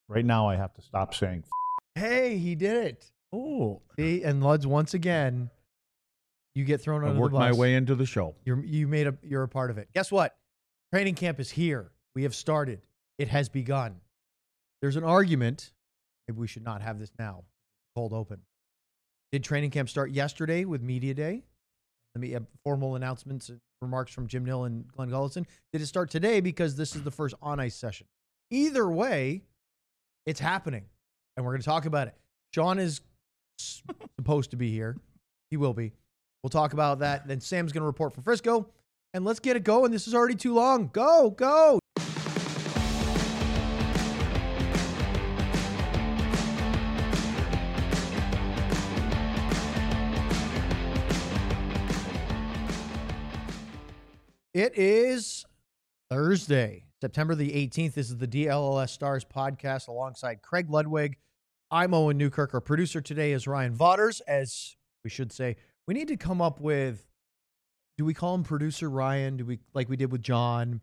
Right now, I have to stop saying. Hey, he did it. Oh, See, and Luds, once again, you get thrown I under the worked bus. my way into the show. You're a part of it. Guess what? Training camp is here. We have started. It has begun. There's an argument. Maybe we should not have this now. Cold open. Did training camp start yesterday with media day? Let me have formal announcements and remarks from Jim Nill and Glenn Gullitson. Did it start today because this is the first on-ice session? Either way, it's happening, and we're going to talk about it. Sean is supposed to be here. He will be. We'll talk about that. Then Sam's going to report for Frisco, and let's get it going. This is already too long. Go. It is Thursday, September the 18th. This is the DLLS Stars podcast alongside Craig Ludwig. I'm Owen Newkirk. Our producer today is Ryan Vaughters. As we should say, we need to come up with, do we call him producer Ryan? Do we, like we did with John,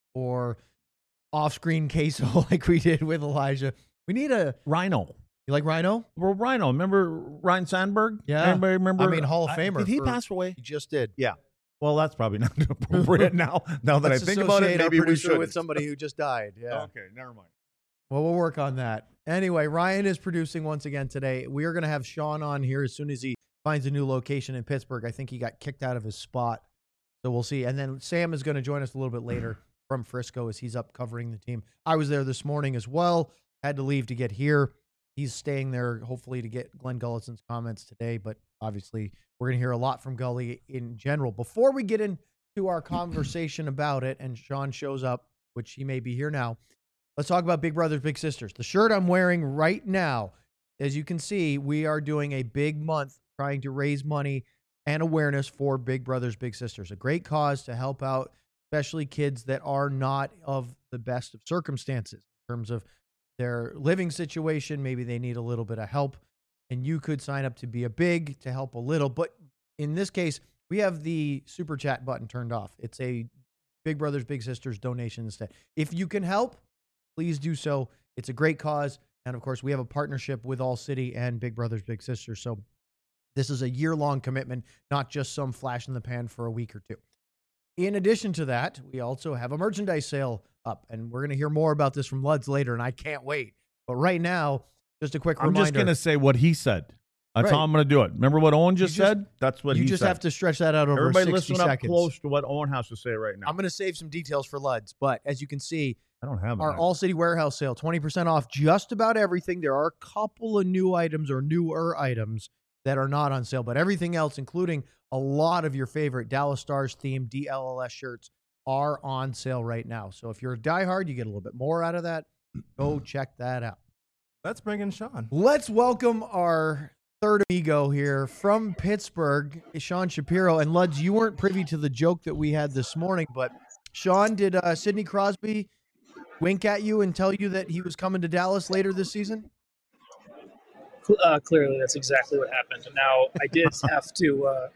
or off-screen Queso like we did with Elijah? We need a Rhino. You like Rhino? Well, Rhino. Remember Ryan Sandberg? Yeah. Anybody remember? I mean, Hall of Famer. Did he pass away? He just did. Yeah. Well, that's probably not appropriate now. Now that Let's I think about it, associate our maybe we producer should. with somebody who just died. Yeah. Okay, never mind. Well, we'll work on that. Anyway, Ryan is producing once again today. We are going to have Sean on here as soon as he finds a new location in Pittsburgh. I think he got kicked out of his spot, so we'll see. And then Sam is going to join us a little bit later from Frisco as he's up covering the team. I was there this morning as well. Had to leave to get here. He's staying there, hopefully, to get Glenn Gullitson's comments today. But obviously, we're going to hear a lot from Gully in general. Before we get into our conversation about it, and Sean shows up, which he may be here now, let's talk about Big Brothers Big Sisters. The shirt I'm wearing right now, as you can see, we are doing a big month trying to raise money and awareness for Big Brothers Big Sisters, a great cause to help out, especially kids that are not of the best of circumstances in terms of their living situation. Maybe they need a little bit of help, and you could sign up to be a big to help a little. But in this case, we have the super chat button turned off. It's a Big Brothers Big Sisters donation instead. If you can help, please do so. It's a great cause. And of course, we have a partnership with All City and Big Brothers Big Sisters. So this is a year-long commitment, not just some flash in the pan for a week or two. In addition to that, we also have a merchandise sale up, and we're going to hear more about this from Luds later, and I can't wait. But right now, just a quick reminder. I'm just going to say what he said. That's Right. how I'm going to do it. Remember what Owen just said? That's what he said. You just have to stretch that out over Everybody 60 listen seconds. up close to what Owen has to say right now. I'm going to save some details for Luds, but as you can see, I don't have our it. All City Warehouse sale, 20% off just about everything. There are a couple of new items or newer items that are not on sale, but everything else, including a lot of your favorite Dallas Stars themed DLLS shirts, are on sale right now. So if you're a diehard, you get a little bit more out of that. Go check that out. Let's bring in Sean. Let's welcome our third amigo here from Pittsburgh, Sean Shapiro. And Luds, you weren't privy to the joke that we had this morning, but Sean, did Sidney Crosby wink at you and tell you that he was coming to Dallas later this season? Clearly, that's exactly what happened. Now, I did have to.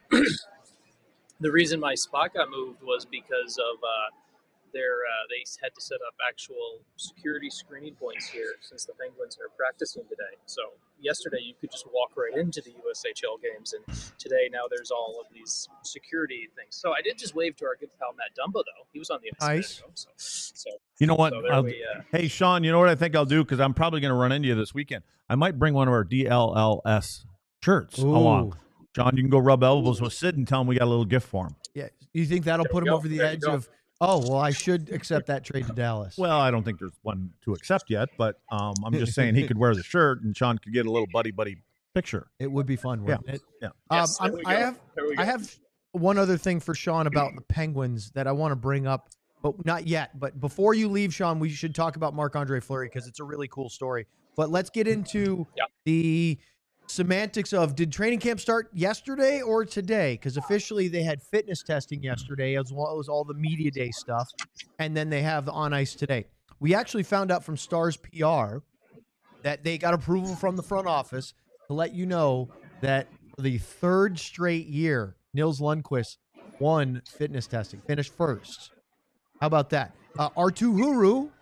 The reason my spot got moved was because of they had to set up actual security screening points here since the Penguins are practicing today. So yesterday you could just walk right into the USHL games, and today now there's all of these security things. So I did just wave to our good pal Matt Dumbo, though. He was on the ice. Nice. So You know what? So there Hey, Sean, you know what I think I'll do? Because I'm probably going to run into you this weekend. I might bring one of our DLLS shirts along. John, you can go rub elbows with Sid and tell him we got a little gift for him. Yeah. You think that'll put him over the edge of, oh, well, I should accept that trade to Dallas? Well, I don't think there's one to accept yet, but I'm just saying he could wear the shirt and Sean could get a little buddy picture. It would be fun, wouldn't it? Yeah. Yes, there we go. I have one other thing for Sean about the Penguins that I want to bring up, but not yet. But before you leave, Sean, we should talk about Marc-Andre Fleury because it's a really cool story. But let's get into the semantics of, did training camp start yesterday or today? Because officially they had fitness testing yesterday as well as all the media day stuff, and then they have the on ice today. We actually found out from Stars PR that they got approval from the front office to let you know that for the third straight year, Nils Lundqvist won fitness testing, finished first. How about that? Arttu Huru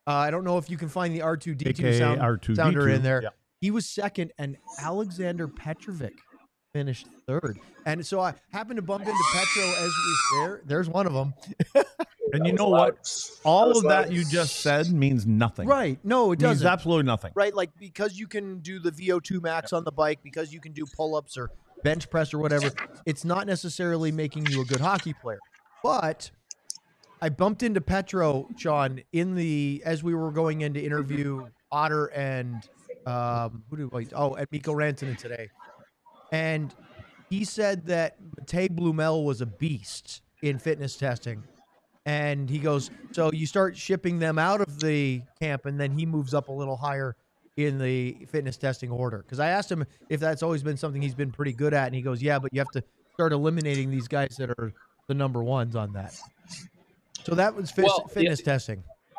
I don't know if you can find the R2D2 AKA R2D2. sounder in there. Yeah. He was second, and Alexander Petrovic finished third. And so I happened to bump into Petro as there's one of them. And you know what? All of that you just said means nothing. Right. No, it Means doesn't. absolutely nothing. Right, like because you can do the VO2 max on the bike, because you can do pull-ups or bench press or whatever, it's not necessarily making you a good hockey player. But I bumped into Petro, Sean, as we were going in to interview Otter and and Mikko Rantanen today. And he said that Matej Blumel was a beast in fitness testing. And he goes, so you start shipping them out of the camp, and then he moves up a little higher in the fitness testing order. Because I asked him if that's always been something he's been pretty good at, and he goes, yeah, but you have to start eliminating these guys that are the number ones on that. So that was fitness testing.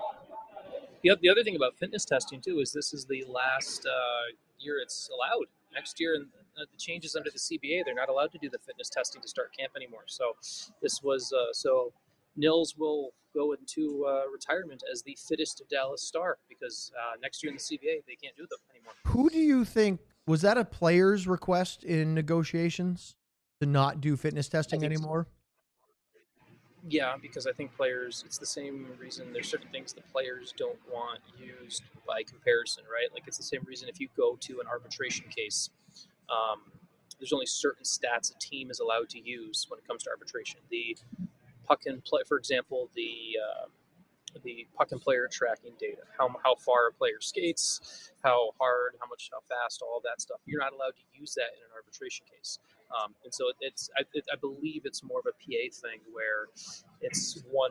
The other thing about fitness testing, too, is this is the last year it's allowed. Next year, and the changes under the CBA, they're not allowed to do the fitness testing to start camp anymore. So this was Nils will go into retirement as the fittest Dallas Star because next year in the CBA, they can't do them anymore. Who do you think, was that a player's request in negotiations to not do fitness testing anymore? Yeah, because I think players, it's the same reason there's certain things the players don't want used by comparison, right? Like it's the same reason if you go to an arbitration case, there's only certain stats a team is allowed to use when it comes to arbitration. The puck and play, for example, the puck and player tracking data, how far a player skates, how hard, how fast, all of that stuff. You're not allowed to use that in an arbitration case. And so I believe it's more of a PA thing where it's one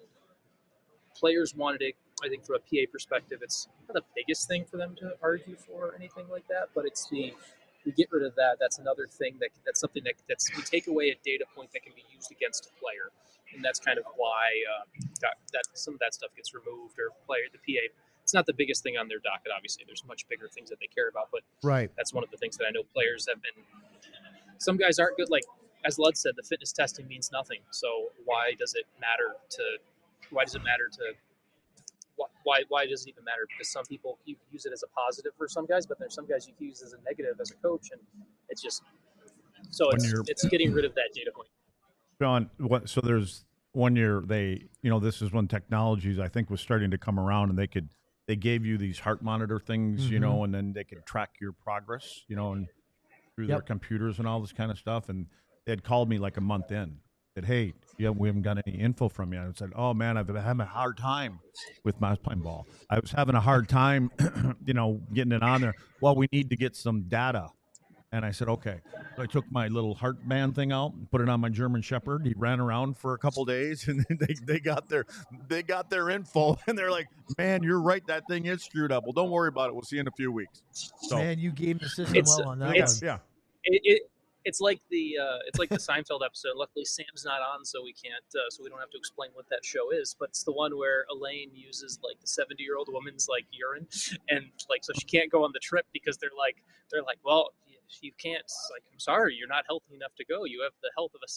players wanted it. I think from a PA perspective, it's not the biggest thing for them to argue for or anything like that, but it's we get rid of that. That's another thing that's something that's we take away a data point that can be used against a player, and that's kind of why that some of that stuff gets removed or the PA. It's not the biggest thing on their docket. Obviously, there's much bigger things that they care about, but right. That's one of the things that I know players have been. Some guys aren't good. Like as Lud said, the fitness testing means nothing. So why does it matter to? Why does it even matter? Because some people you can use it as a positive for some guys, but there's some guys you can use as a negative as a coach, and it's just so it's getting rid of that data point. John, so there's 1 year this is when technologies I think was starting to come around, and they gave you these heart monitor things, and then they could track your progress, and through their computers and all this kind of stuff. And they had called me like a month in. Said, hey, we haven't got any info from you. And I said, oh, man, I've been having a hard time with my playing ball. I was having a hard time, getting it on there. Well, we need to get some data. And I said, okay. So I took my little heart band thing out and put it on my German Shepherd. He ran around for a couple of days, and then they got their info. And they're like, man, you're right. That thing is screwed up. Well, don't worry about it. We'll see you in a few weeks. So, man, you gave the system well on that one. Yeah. It's like the Seinfeld episode. Luckily, Sam's not on, so we can't. So we don't have to explain what that show is. But it's the one where Elaine uses like the 70-year-old woman's like urine, and like so she can't go on the trip because they're like, well, you can't. It's like, I'm sorry, you're not healthy enough to go. You have the health of a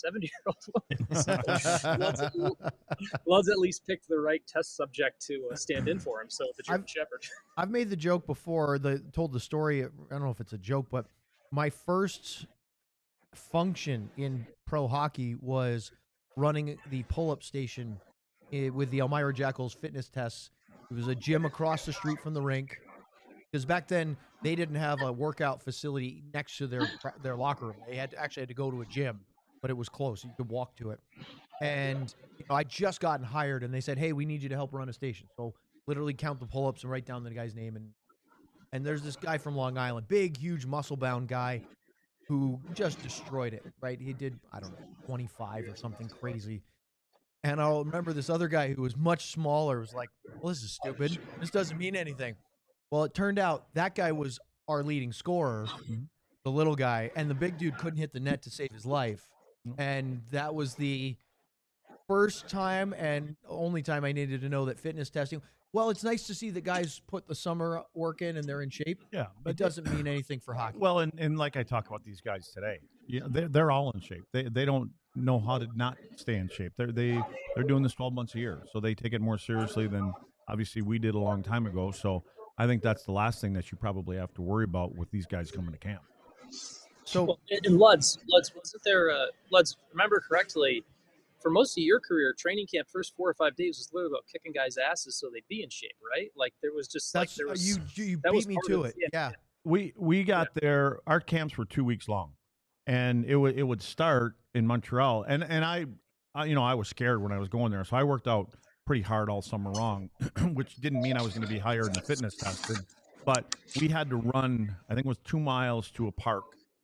70-year-old woman. So Lud's at least picked the right test subject to stand in for him. So the German Shepherd. I've made the joke before. Told the story. I don't know if it's a joke, but my first function in pro hockey was running the pull-up station with the Elmira Jackals fitness tests. It was a gym across the street from the rink, because back then they didn't have a workout facility next to their locker room. They had to go to a gym, but it was close. You could walk to it. And I just gotten hired, and they said, hey, we need you to help run a station. So literally count the pull-ups and write down the guy's name. And there's this guy from Long Island, big, huge, muscle-bound guy, who just destroyed it, right? He did, 25 or something crazy. And I'll remember this other guy who was much smaller was like, well, this is stupid. This doesn't mean anything. Well, it turned out that guy was our leading scorer, the little guy, and the big dude couldn't hit the net to save his life. And that was the first time and only time I needed to know that fitness testing, well, it's nice to see that guys put the summer work in and they're in shape. Yeah, but it doesn't mean anything for hockey. Well, and like I talk about these guys today, they're all in shape. They don't know how to not stay in shape. They're doing this 12 months a year, so they take it more seriously than Obviously, we did a long time ago. So I think that's the last thing that you probably have to worry about with these guys coming to camp. So Well, and Luds wasn't there? Luds, remember correctly, for most of your career, training camp first 4 or 5 days was literally about kicking guys' asses so they'd be in shape, right? Like there was just like that's there was you that was beat me part to of- it. Yeah. We got there. Our camps were 2 weeks long, and it would start in Montreal. And I was scared when I was going there, so I worked out pretty hard all summer long, which didn't mean I was going to be higher in the fitness testing. But we had to run. I think it was 2 miles to a park,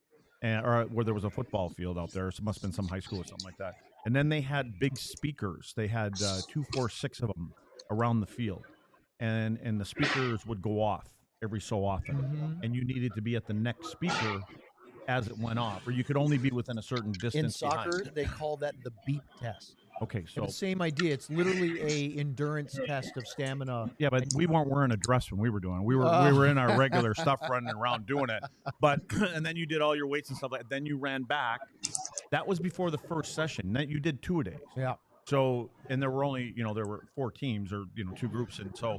or where there was a football field out there. So it must have been some high school or something like that. And then they had big speakers. They had 2, 4, 6 of them around the field, and the speakers would go off every so often, Mhm. and you needed to be at the next speaker as it went off, or you could only be within a certain In distance soccer, behind. they call that the beep test. Okay, So so the same idea. It's literally a endurance test of stamina. yeah, but we weren't wearing a dress when we were doing it. We were in our regular stuff running around doing it. But and then you did all your weights and stuff like that. Then you ran back. That was before the first session. Then you did 2-a-days. Yeah. So, and there were only, there were 4 teams or, 2 groups. And so,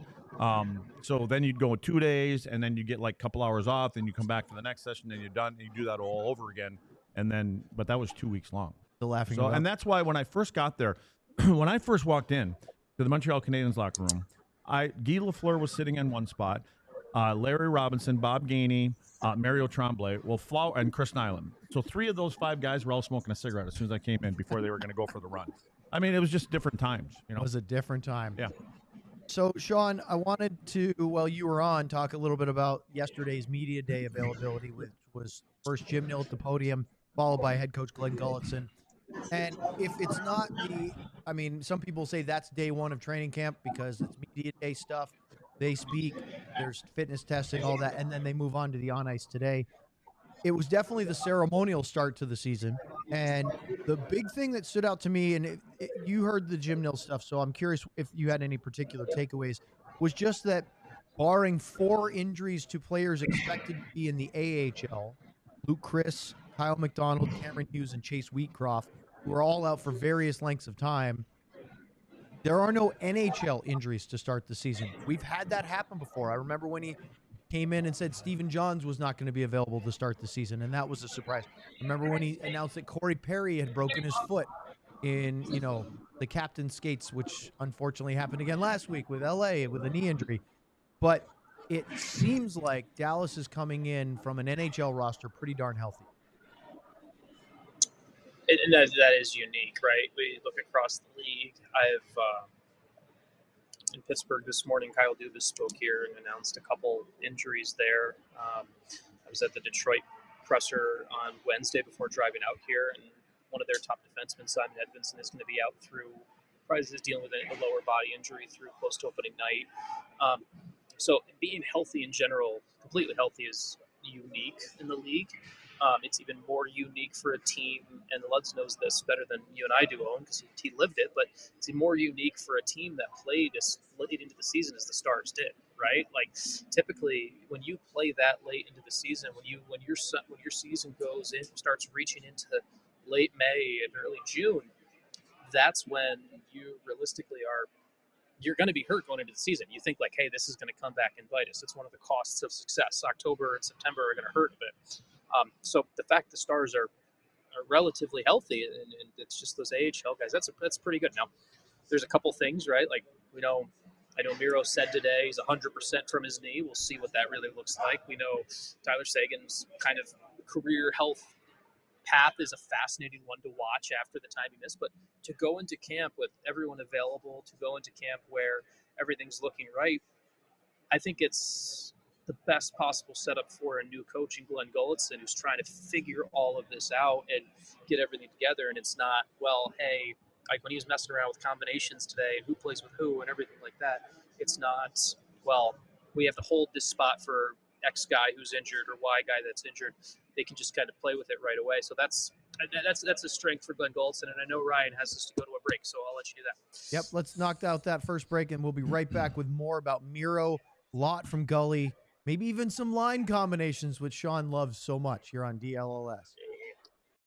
so then you'd go 2 days and then you get like a couple hours off. Then you come back for the next session and you're done. And you do that all over again. And then, but that was 2 weeks long. The laughing. So, and that's why when I first got there, when I first walked in to the Montreal Canadiens locker room, Guy Lafleur was sitting in one spot, Larry Robinson, Bob Gainey, Mario Tremblay, and Chris Nyland. So 3 of those 5 guys were all smoking a cigarette as soon as I came in before they were going to go for the run. I mean, it was just different times, It was a different time. Yeah. So, Sean, I wanted to, while you were on, talk a little bit about yesterday's media day availability, which was first Jim Nill at the podium, followed by head coach Glenn Gulletson. And if it's not some people say that's day 1 of training camp because it's media day stuff. They speak, there's fitness testing, all that, and then they move on to the on ice today. It was definitely the ceremonial start to the season. And the big thing that stood out to me, and you heard the Jim Nill stuff, so I'm curious if you had any particular takeaways, was just that barring 4 injuries to players expected to be in the AHL, Luke Chris, Kyle McDonald, Cameron Hughes, and Chase Wheatcroft, who are all out for various lengths of time, there are no NHL injuries to start the season. We've had that happen before. I remember when he came in and said Stephen Johns was not going to be available to start the season, and that was a surprise. I remember when he announced that Corey Perry had broken his foot in, the captain's skates, which unfortunately happened again last week with LA with a knee injury. But it seems like Dallas is coming in from an NHL roster pretty darn healthy. And that is unique, right? We look across the league. In Pittsburgh this morning, Kyle Dubas spoke here and announced a couple injuries there. I was at the Detroit presser on Wednesday before driving out here, and one of their top defensemen, Simon Edvinsson, is going to be out through, probably is dealing with a lower body injury through close to opening night. So being healthy in general, completely healthy, is unique in the league. It's even more unique for a team, and Luds knows this better than you and I do, Owen, because he lived it, but it's more unique for a team that played as late into the season as the Stars did, right? Like, typically, when you play that late into the season, when your season goes in, starts reaching into late May and early June, that's when you realistically you're going to be hurt going into the season. You think like, hey, this is going to come back and bite us. It's one of the costs of success. October and September are going to hurt a bit. So the fact the Stars are relatively healthy, and it's just those AHL guys, that's pretty good. Now, there's a couple things, right? Like, I know Miro said today he's 100% from his knee. We'll see what that really looks like. We know Tyler Seguin's kind of career health path is a fascinating one to watch after the time he missed. But to go into camp with everyone available, to go into camp where everything's looking right, I think it's the best possible setup for a new coach in Glenn Gulletson, who's trying to figure all of this out and get everything together. And it's not, well, hey, like when he was messing around with combinations today, who plays with who and everything like that. It's not, well, we have to hold this spot for X guy who's injured or Y guy that's injured. They can just kind of play with it right away. So that's a strength for Glenn Gulletson. And I know Ryan has us to go to a break, so I'll let you do that. Yep, let's knock out that first break, and we'll be right back with more about Miro, Lot from Gully, maybe even some line combinations, which Sean loves so much here on DLLS.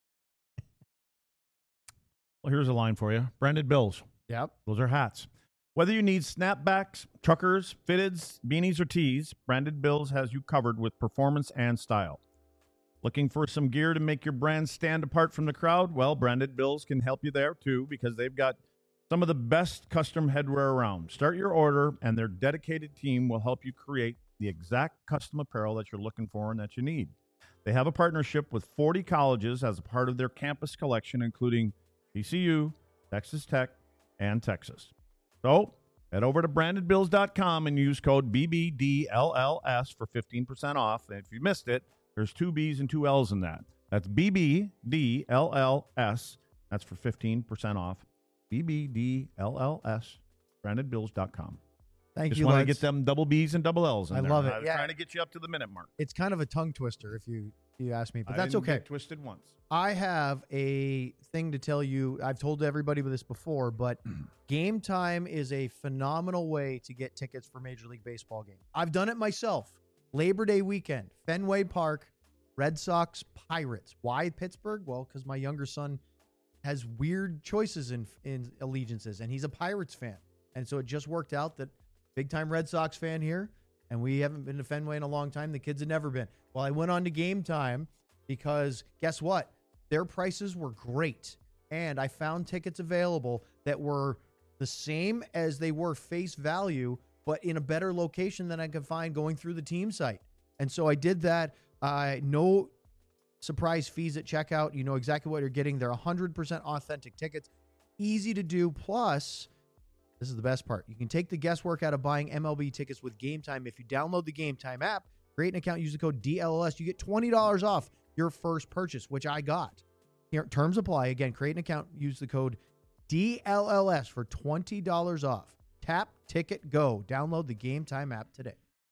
Well, here's a line for you. Branded Bills. Yep. Those are hats. Whether you need snapbacks, truckers, fitteds, beanies, or tees, Branded Bills has you covered with performance and style. Looking for some gear to make your brand stand apart from the crowd? Well, Branded Bills can help you there too, because they've got some of the best custom headwear around. Start your order, and their dedicated team will help you create the exact custom apparel that you're looking for and that you need. They have a partnership with 40 colleges as a part of their campus collection, including TCU, Texas Tech, and Texas. So head over to brandedbills.com and use code BBDLLS for 15% off. And if you missed it, there's 2 B's and 2 L's in that. That's BBDLLS. That's for 15% off. BBDLLS, brandedbills.com. Thank Just you, want to Lutz. get them double B's and double L's in I there. love it. I'm Yeah. trying to get you up to the minute mark. It's kind of a tongue twister if you ask me, but I that's didn't okay. get twisted once. I have a thing to tell you. I've told everybody this before, but Game Time is a phenomenal way to get tickets for Major League Baseball games. I've done it myself. Labor Day weekend, Fenway Park, Red Sox, Pirates. Why Pittsburgh? Well, because my younger son has weird choices in allegiances, and he's a Pirates fan. And so it just worked out that big-time Red Sox fan here, and we haven't been to Fenway in a long time. The kids had never been. Well, I went on to Game Time because guess what? Their prices were great, and I found tickets available that were the same as they were face value, but in a better location than I could find going through the team site. And so I did that. No surprise fees at checkout. You know exactly what you're getting. They're 100% authentic tickets. Easy to do. Plus, this is the best part. You can take the guesswork out of buying MLB tickets with Game Time. If you download the Game Time app, create an account, use the code DLLS, you get $20 off your first purchase, which I got. Here, terms apply. Again, create an account, use the code DLLS for $20 off. Tap, ticket, go. Download the Game Time app today.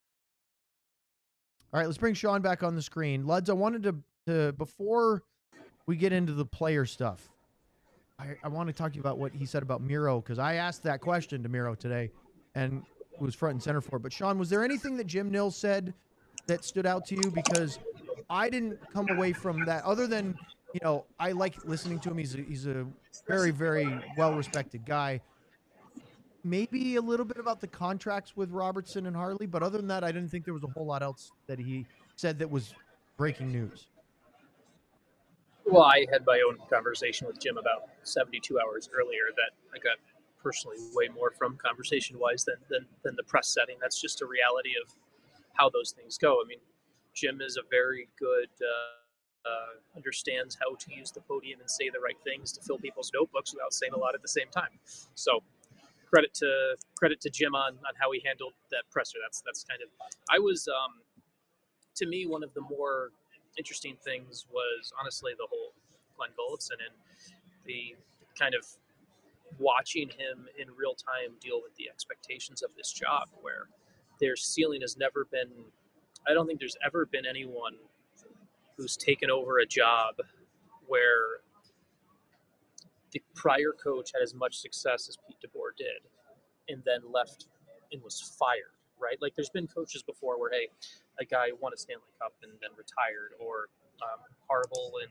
All right, let's bring Sean back on the screen. Luds, I wanted to before we get into the player stuff, I want to talk to you about what he said about Miro, because I asked that question to Miro today and was front and center for it. But Sean, was there anything that Jim Nils said that stood out to you? Because I didn't come away from that other than, you know, I like listening to him. He's a very, very well-respected guy. Maybe a little bit about the contracts with Robertson and Harley, but other than that, I didn't think there was a whole lot else that he said that was breaking news. Well, I had my own conversation with Jim about 72 hours earlier that I got personally way more from conversation-wise than the press setting. That's just a reality of how those things go. I mean, Jim is a very good, understands how to use the podium and say the right things to fill people's notebooks without saying a lot at the same time. So credit to Jim on how he handled that presser. That's kind of, I was, to me, one of the more interesting things was honestly the whole Glenn Gulletson and the kind of watching him in real time deal with the expectations of this job, where their ceiling has never been, I don't think there's ever been anyone who's taken over a job where the prior coach had as much success as Pete DeBoer did and then left and was fired, right? Like there's been coaches before where, hey, a guy won a Stanley Cup and then retired, or Harbaugh in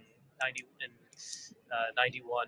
91.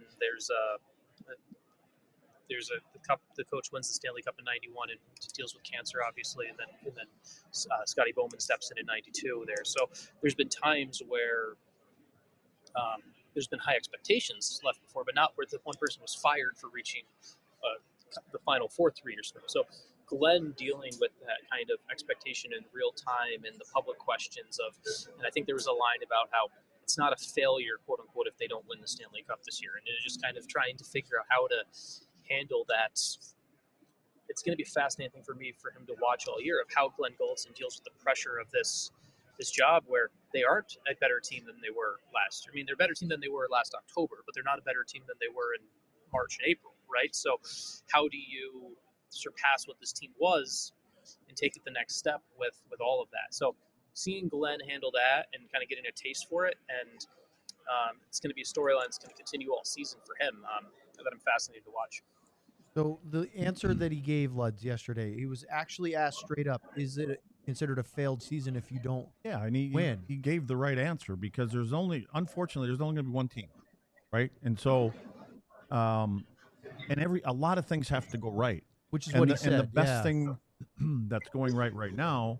The coach wins the Stanley Cup in 91 and deals with cancer, obviously, and then Scotty Bowman steps in 92 there. So there's been times where there's been high expectations left before, but not where the one person was fired for reaching the Final Four 3 years ago. So Glenn dealing with that kind of expectation in real time and the public questions of, and I think there was a line about how it's not a failure, quote unquote, if they don't win the Stanley Cup this year. And it's just kind of trying to figure out how to handle that. It's going to be fascinating for me for him to watch all year of how Glenn Gulletson deals with the pressure of this job, where they aren't a better team than they were last year. I mean, they're a better team than they were last October, but they're not a better team than they were in March and April, right? So how do you surpass what this team was and take it the next step with all of that? So seeing Glenn handle that and kind of getting a taste for it, and it's going to be a storyline that's going to continue all season for him that I'm fascinated to watch. So the answer that he gave Luds yesterday, he was actually asked straight up, is it considered a failed season if you don't win? He gave the right answer, because unfortunately, there's only going to be one team, right? And so, a lot of things have to go right. which is And what the, he said. and the best yeah. thing that's going right now,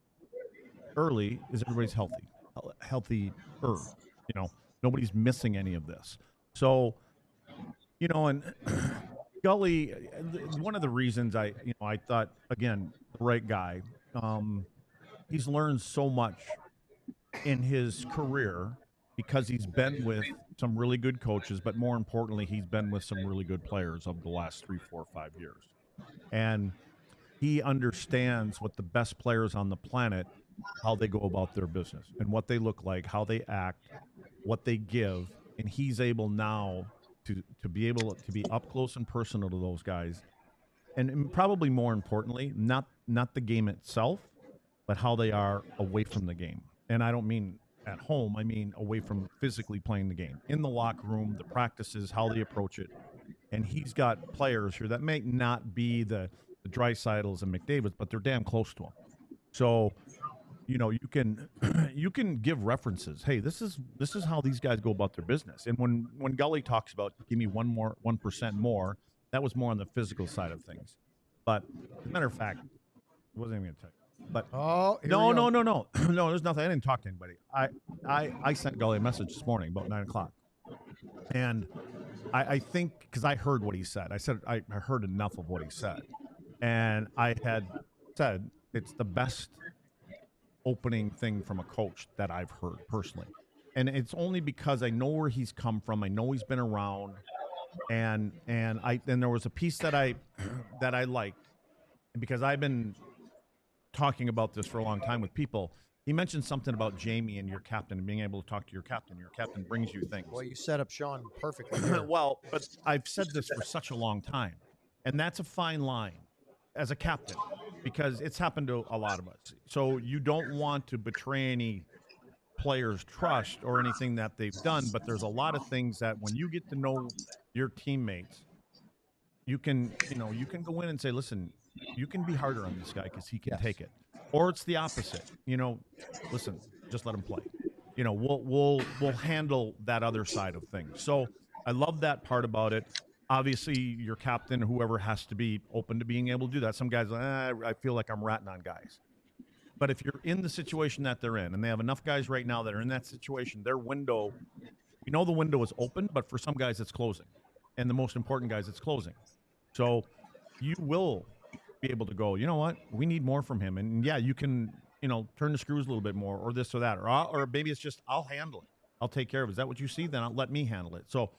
early, is everybody's healthy. Nobody's missing any of this. So, and Gully, one of the reasons I thought, again, the right guy. He's learned so much in his career because he's been with some really good coaches, but more importantly, he's been with some really good players over the last 3, 4, 5 years. And he understands what the best players on the planet, how they go about their business and what they look like, how they act, what they give. And he's able now to be able to be up close and personal to those guys. And probably more importantly, not the game itself, but how they are away from the game. And I don't mean at home. I mean away from physically playing the game. In the locker room, the practices, how they approach it. And he's got players here that may not be the Dreisaitl's and McDavids, but they're damn close to him. So, you can give references. Hey, this is how these guys go about their business. And when Gully talks about give me 1% more, that was more on the physical side of things. But as a matter of fact, I wasn't even going to tell you. But no, no, there's nothing. I didn't talk to anybody. I sent Gully a message this morning about 9:00, and I think because I heard what he said. I said I heard enough of what he said, and I had said it's the best opening thing from a coach that I've heard personally, and it's only because I know where he's come from. I know he's been around, and there was a piece that I liked, because I've been talking about this for a long time with people. He mentioned something about Jamie and your captain and being able to talk to your captain. Your captain brings you things. Well, you set up Sean perfectly. There. Well, but I've said this for such a long time, and that's a fine line as a captain, because it's happened to a lot of us. So you don't want to betray any players' trust or anything that they've done, but there's a lot of things that when you get to know your teammates, you can go in and say, listen, you can be harder on this guy because he can take it. Or it's the opposite. Listen, just let him play. We'll handle that other side of things. So I love that part about it. Obviously, your captain, whoever, has to be open to being able to do that. Some guys, I feel like I'm ratting on guys. But if you're in the situation that they're in, and they have enough guys right now that are in that situation, their window, we know the window is open, but for some guys it's closing. And the most important guys, it's closing. So you will be able to go, you know what, we need more from him. And yeah, you can, turn the screws a little bit more, or this or that, or maybe it's just, I'll handle it. I'll take care of it. Is that what you see? Then let me handle it. So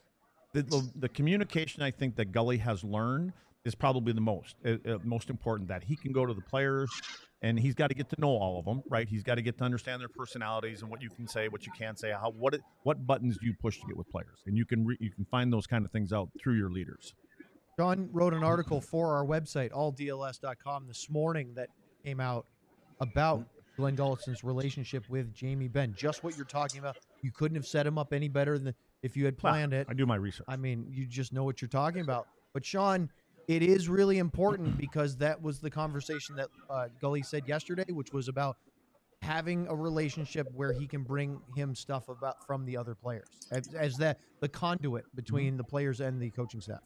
the communication I think that Gully has learned is probably the most important, that he can go to the players, and he's got to get to know all of them, right? He's got to get to understand their personalities and what you can say, what you can't say, what buttons do you push to get with players. And you can find those kind of things out through your leaders. John wrote an article for our website, alldls.com, this morning that came out about Glenn Gullison's relationship with Jamie Benn. Just what you're talking about. You couldn't have set him up any better than if you had planned it. I do my research. I mean, you just know what you're talking about. But, Sean, it is really important, because that was the conversation that Gully said yesterday, which was about having a relationship where he can bring him stuff from the other players as the conduit between the players and the coaching staff.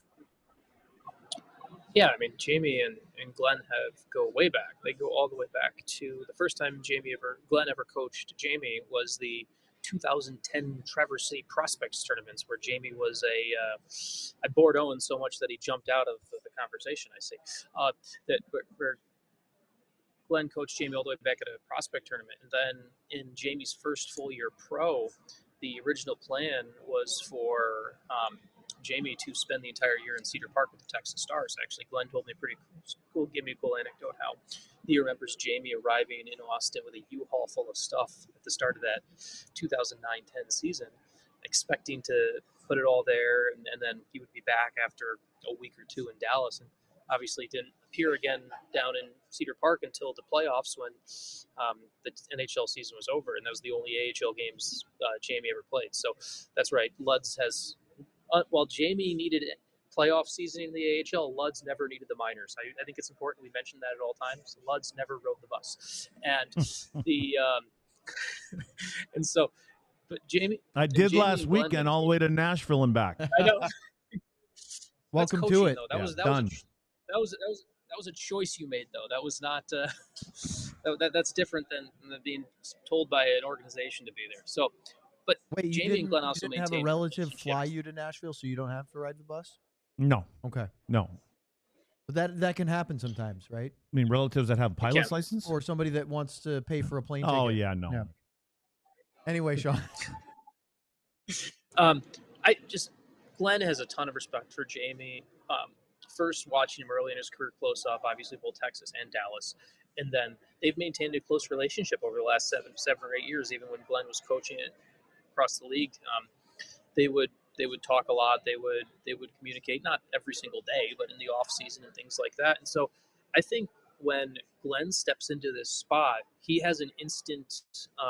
Yeah, I mean, Jamie and Glenn go way back. They go all the way back to the first time Glenn ever coached Jamie was the 2010 Traverse City Prospects tournaments, where Jamie was I bored Owen so much that he jumped out of the conversation. I see where Glenn coached Jamie all the way back at a prospect tournament, and then in Jamie's first full year pro, the original plan was for Jamie to spend the entire year in Cedar Park with the Texas Stars. Actually, Glenn told me gave me a cool anecdote how he remembers Jamie arriving in Austin with a U-Haul full of stuff at the start of that 2009-10 season, expecting to put it all there, and then he would be back after a week or two in Dallas, and obviously didn't appear again down in Cedar Park until the playoffs, when the NHL season was over, and that was the only AHL games Jamie ever played. So that's right. Luds has... while Jamie needed playoff seasoning in the AHL, Luds never needed the minors. I think it's important we mention that at all times. Luds never rode the bus, and and so, but Jamie. I did last weekend all the way to Nashville and back. I know. Welcome coaching, to it. Though. That was done. that was a choice you made, though. That was not that's different than being told by an organization to be there. So, but Wait, Jamie and Glenn also you didn't have a maintained relative fly relationships. you to Nashville, so you don't have to ride the bus? No, Okay. no. But that can happen sometimes, right? I mean, relatives that have pilot's can. license? Or somebody that wants to pay for a plane Oh, ticket. yeah, no. Yeah. Anyway, Sean. Glenn has a ton of respect for Jamie. First, watching him early in his career close up, obviously both Texas and Dallas, and then they've maintained a close relationship over the last seven or 8 years. Even when Glenn was coaching it across the league, they would talk a lot. They would communicate, not every single day, but in the off season and things like that. And so, I think when Glenn steps into this spot, he has an instant.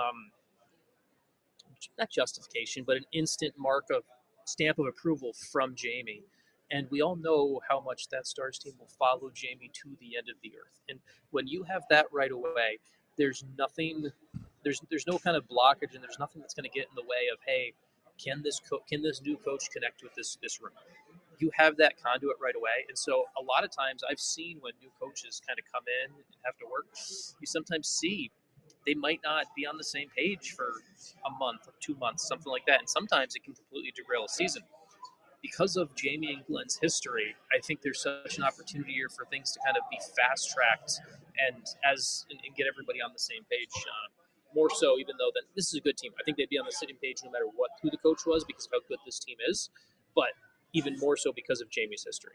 Not justification, but an instant stamp of approval from Jamie. And we all know how much that Stars team will follow Jamie to the end of the earth. And when you have that right away, there's nothing, there's no kind of blockage, and there's nothing that's going to get in the way of, hey, can this new coach connect with this room? You have that conduit right away. And so a lot of times I've seen when new coaches kind of come in and have to work, you sometimes see they might not be on the same page for a month or 2 months, something like that. And sometimes it can completely derail a season. Because of Jamie and Glenn's history, I think there's such an opportunity here for things to kind of be fast tracked and get everybody on the same page. More so, even though that this is a good team, I think they'd be on the same page no matter who the coach was, because of how good this team is. But even more so because of Jamie's history.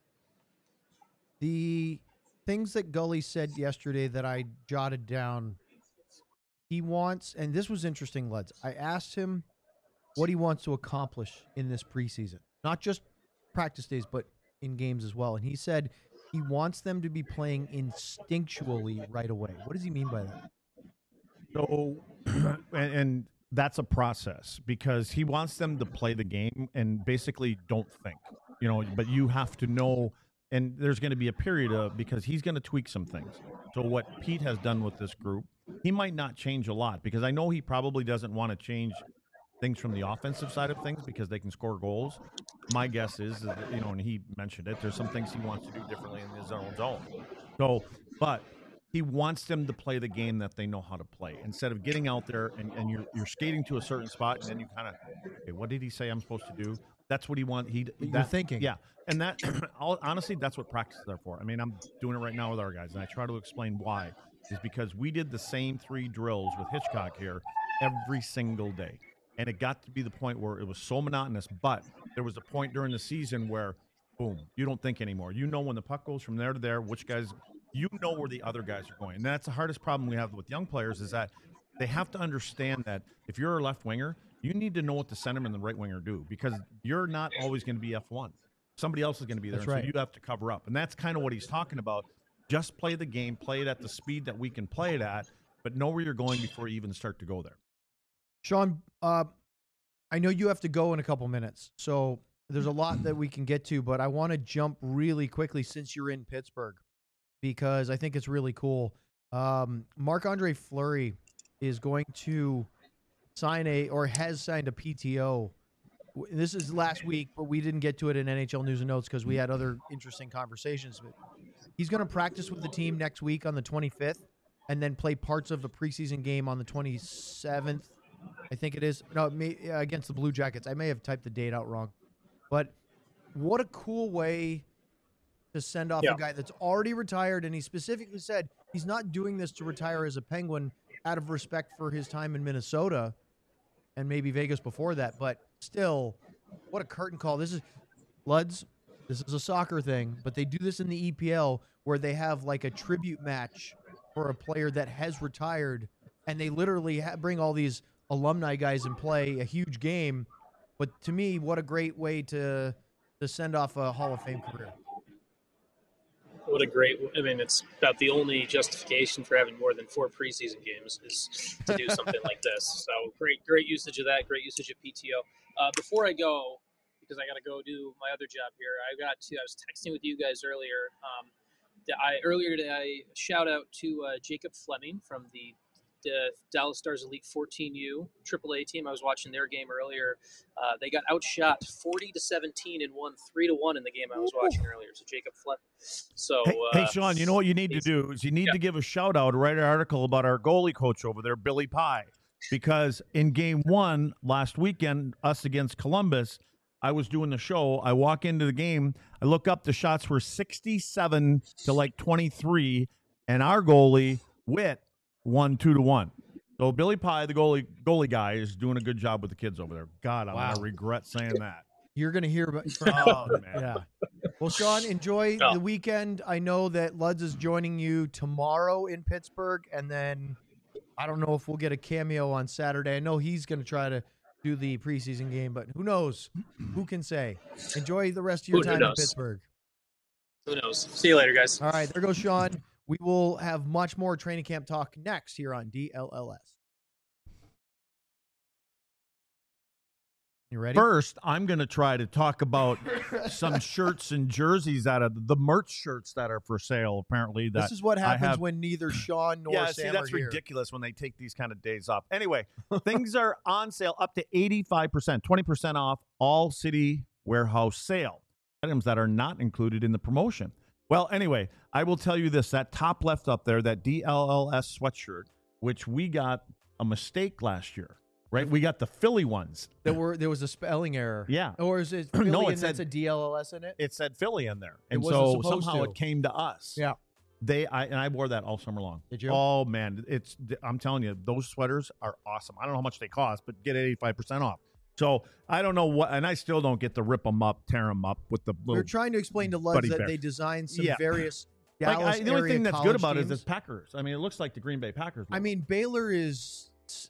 The things that Gully said yesterday that I jotted down. He wants, and this was interesting, Leds. I asked him what he wants to accomplish in this preseason, not just practice days, but in games as well. And he said he wants them to be playing instinctually right away. What does he mean by that? So, and that's a process, because he wants them to play the game and basically don't think, but you have to know. And there's going to be a period because he's going to tweak some things. So what Pete has done with this group, he might not change a lot, because I know he probably doesn't want to change things from the offensive side of things because they can score goals. My guess is that, and he mentioned it, there's some things he wants to do differently in his own zone. So, but he wants them to play the game that they know how to play, instead of getting out there and you're skating to a certain spot and then you kind of, okay, what did he say I'm supposed to do? That's what he wants. You're thinking. Yeah. And that, honestly, that's what practice is there for. I mean, I'm doing it right now with our guys, and I try to explain why. Is because we did the same 3 drills with Hitchcock here every single day. And it got to be the point where it was so monotonous, but there was a point during the season where, boom, you don't think anymore. You know when the puck goes from there to there, which guys, you know where the other guys are going. And that's the hardest problem we have with young players, is that they have to understand that if you're a left winger, you need to know what the centerman and the right winger do, because you're not always going to be F1. Somebody else is going to be there, That's right. so you have to cover up. And that's kind of what he's talking about. Just play the game, play it at the speed that we can play it at, but know where you're going before you even start to go there. Sean, I know you have to go in a couple minutes, so there's a lot that we can get to, but I want to jump really quickly since you're in Pittsburgh, because I think it's really cool. Marc-Andre Fleury is going to has signed a PTO. This is last week, but we didn't get to it in NHL News and Notes because we had other interesting conversations. But he's going to practice with the team next week on the 25th and then play parts of a preseason game on the 27th, I think it is. No, against the Blue Jackets. I may have typed the date out wrong. But what a cool way to send off a guy that's already retired, and he specifically said he's not doing this to retire as a Penguin out of respect for his time in Minnesota and maybe Vegas before that, but still, what a curtain call. This is a soccer thing, but they do this in the EPL where they have like a tribute match for a player that has retired, and they literally bring all these alumni guys and play a huge game. But to me, what a great way to send off a Hall of Fame career. It's about the only justification for having more than 4 preseason games is to do something like this. So great usage of that, great usage of PTO. Before I go, because I got to go do my other job here, I was texting with you guys earlier. Earlier today, I shout out to Jacob Fleming from the Dallas Stars Elite 14U AAA team. I was watching their game earlier. They got outshot 40-17 and won 3-1 in the game I was watching earlier. So Jacob Fleming. So hey, Sean, you know what you need to do is you need to give a shout out, write an article about our goalie coach over there, Billy Pye, because in game 1 last weekend, us against Columbus, I was doing the show. I walk into the game. I look up. The shots were 67 to like 23, and our goalie Witt won 2-1. So Billy Pye, the goalie guy, is doing a good job with the kids over there. God, I'm gonna regret saying that. You're going to hear about from man. Yeah. Well, Sean, enjoy the weekend. I know that Luds is joining you tomorrow in Pittsburgh, and then I don't know if we'll get a cameo on Saturday. I know he's going to try to do the preseason game, but who knows? Who can say? Enjoy the rest of your time in Pittsburgh. Who knows? See you later, guys. All right, there goes Sean. We will have much more training camp talk next here on DLLS. You ready? First, I'm going to try to talk about some shirts and jerseys out of the merch shirts that are for sale. Apparently, this is what happens when neither Sean nor Sam see, that's are here. ridiculous when they take these kind of days off. Anyway, things are on sale up to 85%, 20% off all City Warehouse sale. Items that are not included in the promotion. Well, anyway, I will tell you this. That top left up there, that DLLS sweatshirt, which we got a mistake last year. Right, we got the Philly ones. There was a spelling error. Yeah, or is it Philly no? It said a DLLS in it. It said Philly in there, and so somehow it came to us. Yeah, I wore that all summer long. Did you? Oh man, I'm telling you, those sweaters are awesome. I don't know how much they cost, but get 85% off. So I don't know what, and I still don't get to rip them up, tear them up with the. We're trying to explain to Luds that they designed some various. Dallas the only thing that's good about teams. it is it's Packers. I mean, it looks like the Green Bay Packers. I mean, Baylor is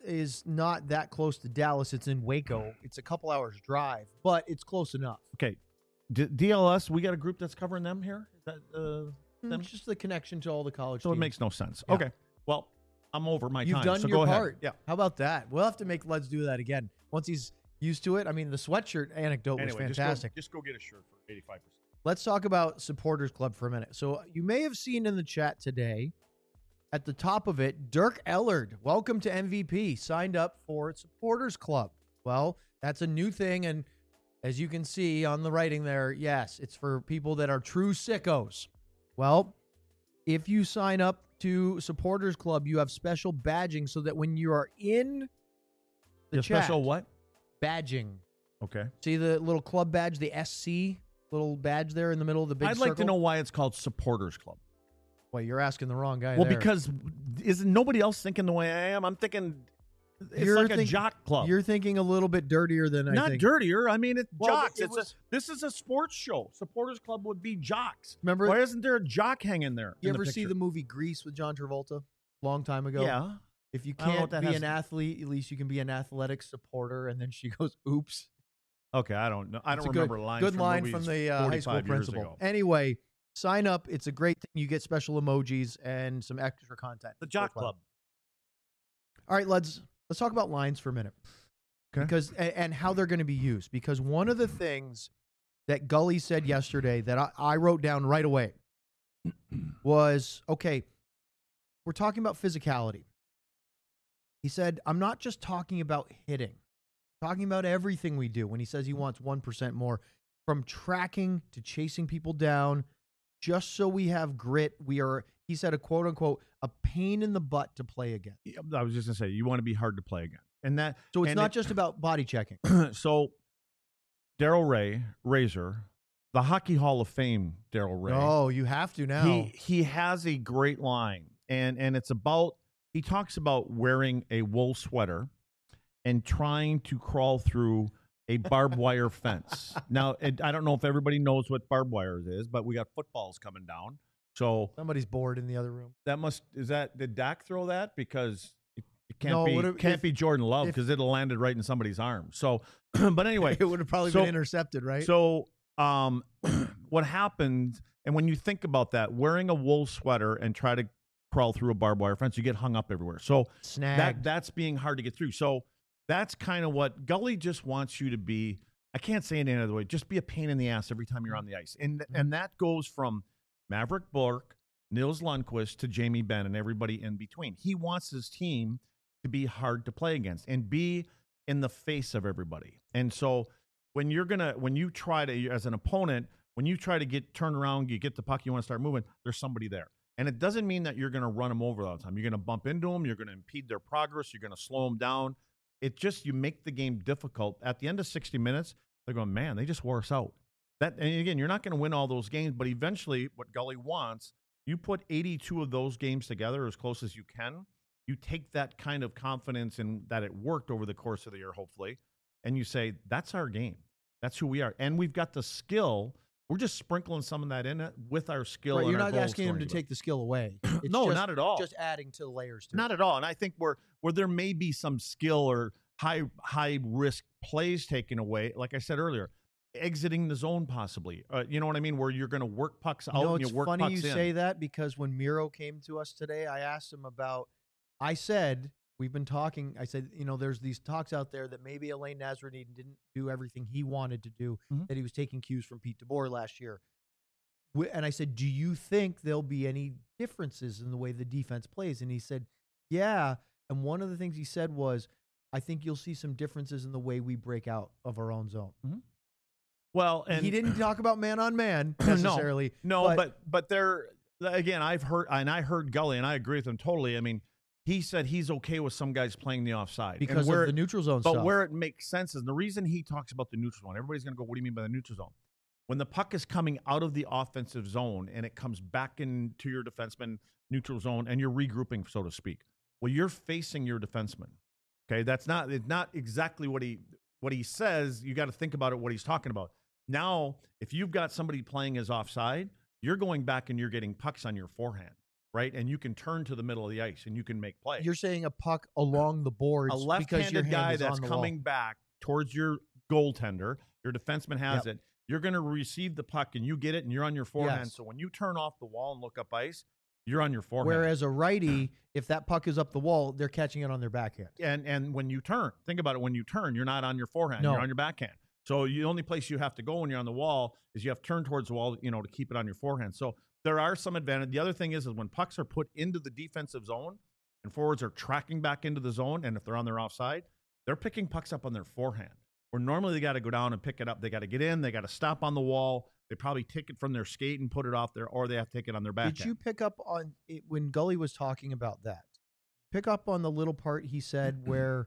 not that close to Dallas. It's in Waco. It's a couple hours drive, but it's close enough. Okay, DLS, we got a group that's covering them here. Is that them? It's just the connection to all the college So teams. it makes no sense. Yeah. Okay, well, I'm over my You've time. done so your go part. Ahead. Yeah. How about that? We'll have to make Luds do that again once he's used to it. I mean, the sweatshirt anecdote was fantastic. Just go get a shirt for 85%. Let's talk about Supporters Club for a minute. So you may have seen in the chat today, at the top of it, Dirk Ellard, welcome to MVP, signed up for Supporters Club. Well, that's a new thing, and as you can see on the writing there, yes, it's for people that are true sickos. Well, if you sign up to Supporters Club, you have special badging so that when you are in the chat, special what? Badging. Okay. See the little club badge, the SC little badge there in the middle of the big I'd circle? like to know why it's called Supporters Club. Well, you're asking the wrong guy. Well, there. because isn't nobody else thinking the way I am? I'm thinking it's like a jock club. You're thinking a little bit dirtier than I think. Not dirtier. I mean, it's jocks. This is a sports show. Supporters Club would be jocks. Remember? Why isn't there a jock hanging there? You ever see the movie Grease with John Travolta? Long time ago. Yeah. If you can't be an athlete, at least you can be an athletic supporter. And then she goes, "Oops." Okay, I don't know. I don't remember lines. Good line from the high school principal. Anyway, sign up. It's a great thing. You get special emojis and some extra content. The Jock Club. All right, let's talk about lines for a minute. Okay. Because and how they're going to be used. Because one of the things that Gully said yesterday that I wrote down right away was, okay, we're talking about physicality. He said, I'm not just talking about hitting. I'm talking about everything we do. When he says he wants 1% more, from tracking to chasing people down, just so we have grit. We are, he said, a quote unquote, a pain in the butt to play again. I was just gonna say, you want to be hard to play again, and that. So it's not just about body checking. So, Daryl Ray, Razor, the Hockey Hall of Fame, Daryl Ray. Oh, you have to now. He has a great line, and it's about. He talks about wearing a wool sweater and trying to crawl through a barbed wire fence. Now, I don't know if everybody knows what barbed wire is, but we got footballs coming down. So somebody's bored in the other room. Did Dak throw that? Because it can't be Jordan Love, because it'll landed right in somebody's arm. So, but anyway, it would have probably been intercepted, right? So, what happened? And when you think about that, wearing a wool sweater and try to crawl through a barbed wire fence, you get hung up everywhere. So that's being hard to get through. So that's kind of what Gully just wants you to be. I can't say it any other way. Just be a pain in the ass every time you're on the ice. And that goes from Maverick Bork Nils Lundqvist to Jamie Benn and everybody in between. He wants his team to be hard to play against and be in the face of everybody. And so when you try to, as an opponent, when you try to turn around, you get the puck, you want to start moving, there's somebody there. And it doesn't mean that you're going to run them over all the time. You're going to bump into them. You're going to impede their progress. You're going to slow them down. It just, you make the game difficult. At the end of 60 minutes, they're going, man, they just wore us out. And again, you're not going to win all those games, but eventually what Gully wants, you put 82 of those games together as close as you can. You take that kind of confidence in that it worked over the course of the year, hopefully, and you say, that's our game. That's who we are. And we've got the skill. We're just sprinkling some of that in with our skill. Right, and you're our not goal asking him to scoring. take the skill away. It's No, just, not at all. Just adding to the layers to Not it. at all. And I think where there may be some skill or high risk plays taken away, like I said earlier, exiting the zone possibly. You know what I mean? Where you're going to work pucks out and It's you work funny pucks you in. say that because when Miro came to us today, I asked him about. I said we've been talking. I said there's these talks out there that maybe Alain Nasreddine didn't do everything he wanted to do. Mhm. That he was taking cues from Pete DeBoer last year. And I said, do you think there'll be any differences in the way the defense plays? And he said, yeah. And one of the things he said was, I think you'll see some differences in the way we break out of our own zone. Well, and He didn't talk about man on man necessarily. No, but there again, I heard Gully, and I agree with him totally. I mean, he said he's okay with some guys playing the offside because and of the neutral zone but stuff. where it makes sense is the reason he talks about the neutral zone. Everybody's going to go, what do you mean by the neutral zone? When the puck is coming out of the offensive zone and it comes back into your defenseman neutral zone and you're regrouping, so to speak. Well, you're facing your defenseman. Okay, it's not exactly what he says. You got to think about it, what he's talking about. Now, if you've got somebody playing as offside, you're going back and you're getting pucks on your forehand, right? And you can turn to the middle of the ice and you can make plays. You're saying a puck along the boards A because your left-handed hand guy is that's on the coming wall. back towards your goaltender, your defenseman has Yep. it. You're going to receive the puck and you get it and you're on your forehand. Yes. So when you turn off the wall and look up ice, you're on your forehand. Whereas a righty, if that puck is up the wall, they're catching it on their backhand. and when you turn, think about it. When you turn, you're not on your forehand. No. You're on your backhand. So the only place you have to go when you're on the wall is you have to turn towards the wall, to keep it on your forehand. So there are some advantage. The other thing is when pucks are put into the defensive zone and forwards are tracking back into the zone, and if they're on their offside, they're picking pucks up on their forehand. Where normally they got to go down and pick it up. They got to get in. They got to stop on the wall. They probably take it from their skate and put it off there, or they have to take it on their backhand. Did you pick up on it when Gully was talking about that? Pick up on the little part he said where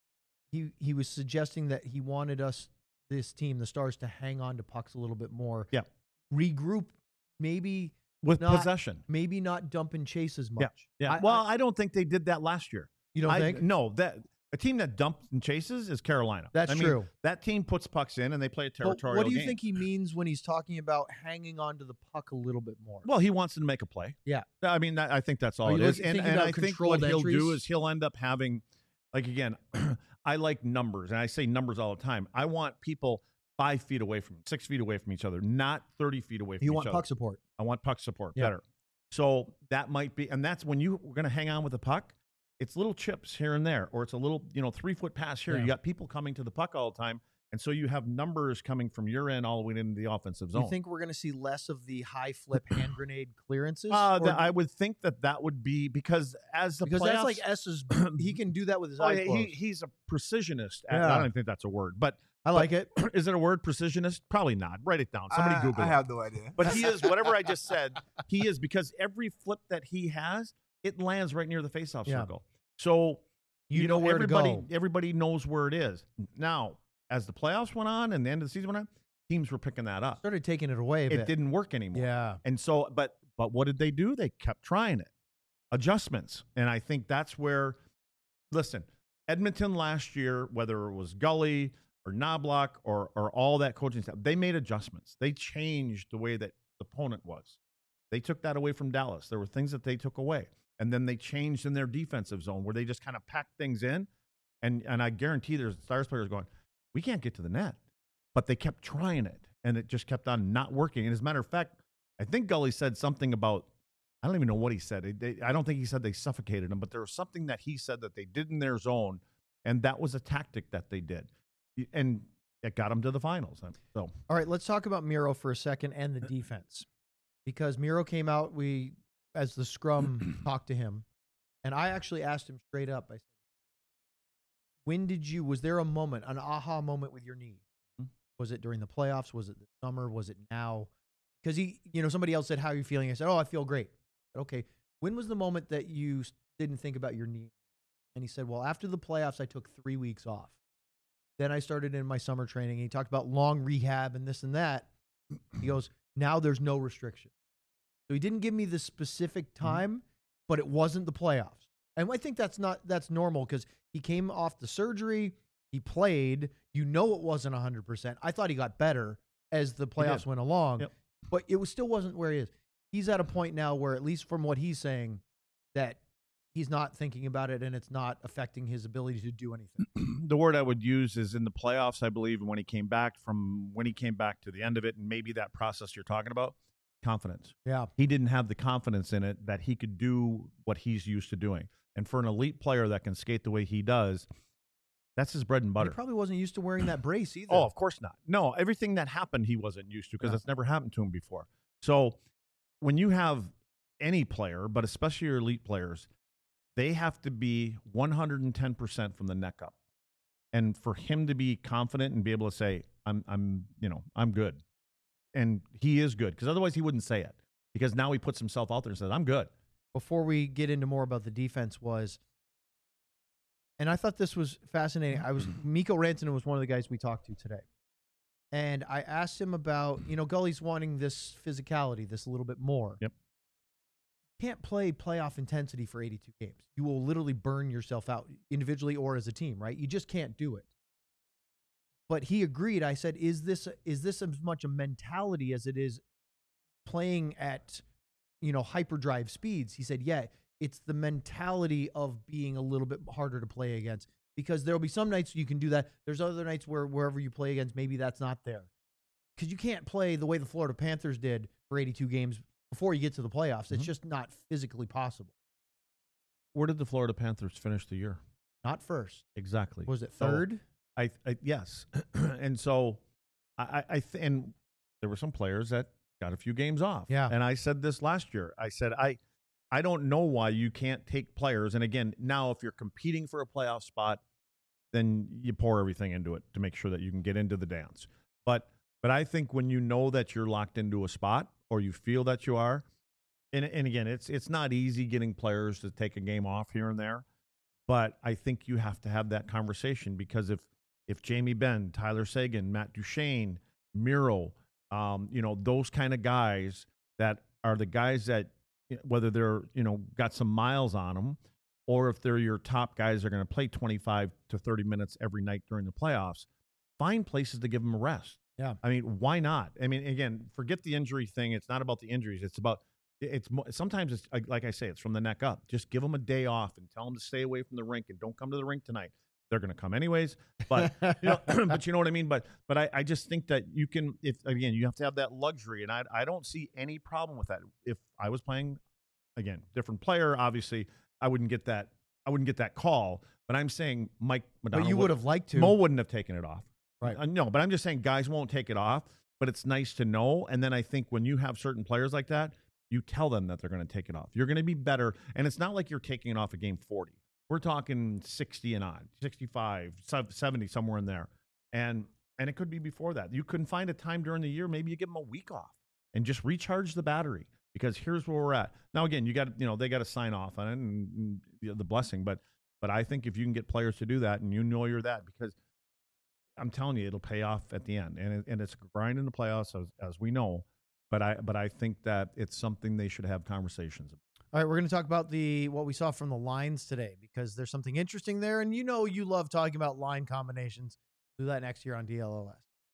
he was suggesting that he wanted this team, the Stars, to hang on to pucks a little bit more. Yeah. Regroup, maybe with not, possession? maybe not dump and chase as much. Yeah. I don't think they did that last year. You don't think? No, that a team that dumps and chases is Carolina. That's true. That team puts pucks in and they play a But territorial what do you game. think he means when he's talking about hanging on to the puck a little bit more? Well, he wants them to make a play. Yeah. I mean, I think that's all Are it you is. thinking And about I think controlled what he'll entries? do is he'll end up having, like, again, I like numbers, and I say numbers all the time. I want people 5 feet away from, 6 feet away from each other, not 30 feet away from You each want other. puck support. I want puck support Yeah. better. So that might be, and that's when you're going to hang on with the puck. It's little chips here and there, or it's a little, 3-foot pass here. Yeah. You got people coming to the puck all the time. And so you have numbers coming from your end all the way into the offensive zone. You think we're going to see less of the high flip hand grenade clearances? I would think that would be because as the because playoffs, that's like S's. He can do that with his eyes closed. he's a precisionist. Yeah. I don't think that's a word, but I like it. is it a word, precisionist? Probably not. Write it down. Somebody Google I it. have no idea. But he is, whatever I just said, he is, because every flip that he has, it lands right near the faceoff Yeah. circle. So, You know where to go. Everybody knows where it is. Now, as the playoffs went on and the end of the season went on, teams were picking that up. Started taking it away a bit. It didn't work anymore. Yeah. And so, but what did they do? They kept trying it. Adjustments. And I think that's where, listen, Edmonton last year, whether it was Gully or Knobloch or all that coaching staff, they made adjustments. They changed the way that the opponent was. They took that away from Dallas. There were things that they took away. And then they changed in their defensive zone where they just kind of packed things in. And I guarantee there's Stars players going, we can't get to the net. But they kept trying it, and it just kept on not working. And as a matter of fact, I think Gully said something about, I don't even know what he said. I don't think he said they suffocated him, but there was something that he said that they did in their zone, and that was a tactic that they did. And it got them to the finals. So, All right, let's talk about Miro for a second and the defense. Because Miro came out, as the scrum talked to him, and I actually asked him straight up. I said, was there a moment, an aha moment with your knee? Was it during the playoffs? Was it this summer? Was it now? Because somebody else said, how are you feeling? I said, oh, I feel great. I said, okay. When was the moment that you didn't think about your knee? And he said, well, after the playoffs, I took 3 weeks off. Then I started in my summer training. And he talked about long rehab and this and that. He goes, now there's no restriction. So he didn't give me the specific time, but it wasn't the playoffs. And I think that's normal because he came off the surgery. He played. It wasn't 100%. I thought he got better as the playoffs went along, but it still wasn't where he is. He's at a point now where, at least from what he's saying, that he's not thinking about it and it's not affecting his ability to do anything. The word I would use is in the playoffs, I believe, when he came back to the end of it, and maybe that process you're talking about, confidence. Yeah. He didn't have the confidence in it that he could do what he's used to doing. And for an elite player that can skate the way he does, that's his bread and butter. He probably wasn't used to wearing that brace either. Oh, of course not. No, everything that happened he wasn't used to because it's never happened to him before. So when you have any player, but especially your elite players, they have to be 110% from the neck up. And for him to be confident and be able to say, I'm good. And he is good, because otherwise he wouldn't say it, because now he puts himself out there and says, I'm good. Before we get into more about the defense and I thought this was fascinating. Mikko Rantanen was one of the guys we talked to today. And I asked him about, Gully's wanting this physicality, this a little bit more. Yep. Can't play playoff intensity for 82 games. You will literally burn yourself out individually or as a team, right? You just can't do it. But he agreed. I said, is this as much a mentality as it is playing at, hyperdrive speeds? He said, yeah, it's the mentality of being a little bit harder to play against, because there'll be some nights you can do that. There's other nights where wherever you play against, maybe that's not there, because you can't play the way the Florida Panthers did for 82 games before you get to the playoffs. It's just not physically possible. Where did the Florida Panthers finish the year? Not first. Exactly. Was it third? I yes. And so and there were some players that got a few games off. Yeah. And I said this last year. I said, I don't know why you can't take players. And again, now if you're competing for a playoff spot, then you pour everything into it to make sure that you can get into the dance. But I think when you know that you're locked into a spot, or you feel that you are, and again, it's not easy getting players to take a game off here and there, but I think you have to have that conversation, because if Jamie Benn, Tyler Seguin, Matt Duchene, Miro, those kind of guys that are the guys that, whether they're, got some miles on them, or if they're your top guys that are going to play 25 to 30 minutes every night during the playoffs, find places to give them a rest. Yeah. I mean, why not? I mean, again, forget the injury thing. It's not about the injuries. Sometimes it's like I say, it's from the neck up. Just give them a day off and tell them to stay away from the rink and don't come to the rink tonight. They're going to come anyways, but but you know what I mean? But I just think that you can, you have to have that luxury, and I don't see any problem with that. If I was playing, again, different player, obviously I wouldn't get that call, but I'm saying Mike Modano. But you would have liked to. Mo wouldn't have taken it off. Right. No, but I'm just saying guys won't take it off, but it's nice to know. And then I think when you have certain players like that, you tell them that they're going to take it off. You're going to be better. And it's not like you're taking it off a game 40. We're talking 60 and on, 65, 70, somewhere in there. And it could be before that. You couldn't find a time during the year. Maybe you give them a week off and just recharge the battery, because here's where we're at. Now, again, they got to sign off on it and the blessing. But I think if you can get players to do that, and you're that, because I'm telling you, it'll pay off at the end, and it's a grind in the playoffs, as we know. But I think that it's something they should have conversations about. All right, we're going to talk about what we saw from the lines today, because there's something interesting there, and you love talking about line combinations. We'll do that next year on DLLS.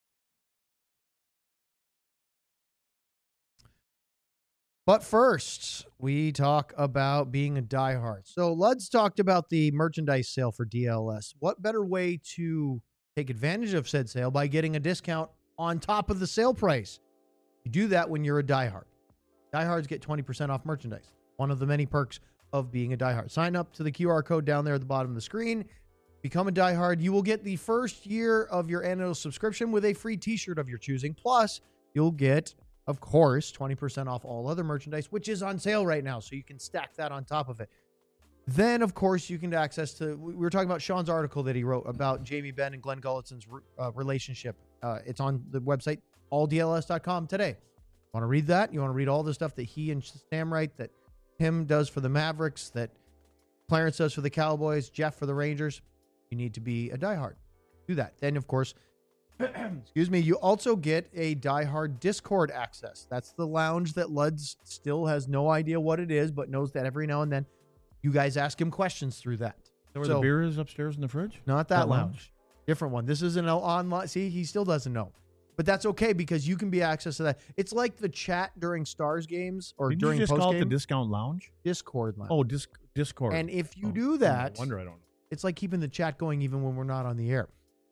But first, we talk about being a diehard. So Luds talked about the merchandise sale for DLS. What better way to take advantage of said sale by getting a discount on top of the sale price? You do that when you're a diehard. Diehards get 20% off merchandise. One of the many perks of being a diehard. Sign up to the QR code down there at the bottom of the screen. Become a diehard. You will get the first year of your annual subscription with a free t-shirt of your choosing. Plus, you'll get of course, 20% off all other merchandise, which is on sale right now. So you can stack that on top of it. Then, of course, you can access to, we were talking about Sean's article that he wrote about Jamie Benn and Glenn Gullickson's relationship. It's on the website, alldls.com today. Want to read that? You want to read all the stuff that he and Sam write, that Tim does for the Mavericks, that Clarence does for the Cowboys, Jeff for the Rangers? You need to be a diehard. Do that. Then, of course, excuse me, you also get a diehard Discord access. That's the lounge that Luds still has no idea what it is, but knows that every now and then you guys ask him questions through that. Where the beer is upstairs in the fridge? Not that lounge. Different one. This is an online. See, he still doesn't know. But that's okay because you can be access to that. It's like the chat during Stars games or Didn't during you just post-game. call it the discount lounge? Discord lounge. Oh, Discord. And if you do that, No wonder I don't know. it's like keeping the chat going even when we're not on the air.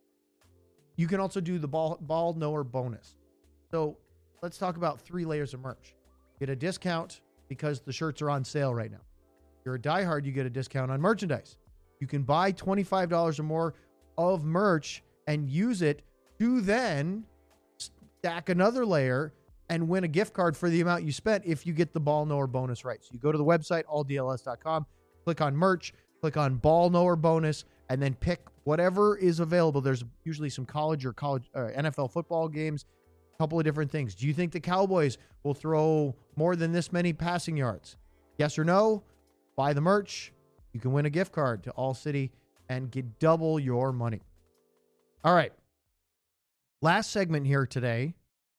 You can also do the ball knower bonus. So let's talk about 3 layers of merch. Get a discount because the shirts are on sale right now. If you're a diehard, you get a discount on merchandise. You can buy $25 or more of merch and use it to then stack another layer and win a gift card for the amount you spent if you get the ball knower bonus right. So you go to the website, alldls.com, click on merch, click on ball knower bonus, and then pick whatever is available. There's usually some college NFL football games, a couple of different things. Do you think the Cowboys will throw more than this many passing yards? Yes or no? Buy the merch. You can win a gift card to All City and get double your money. All right. Last segment here today,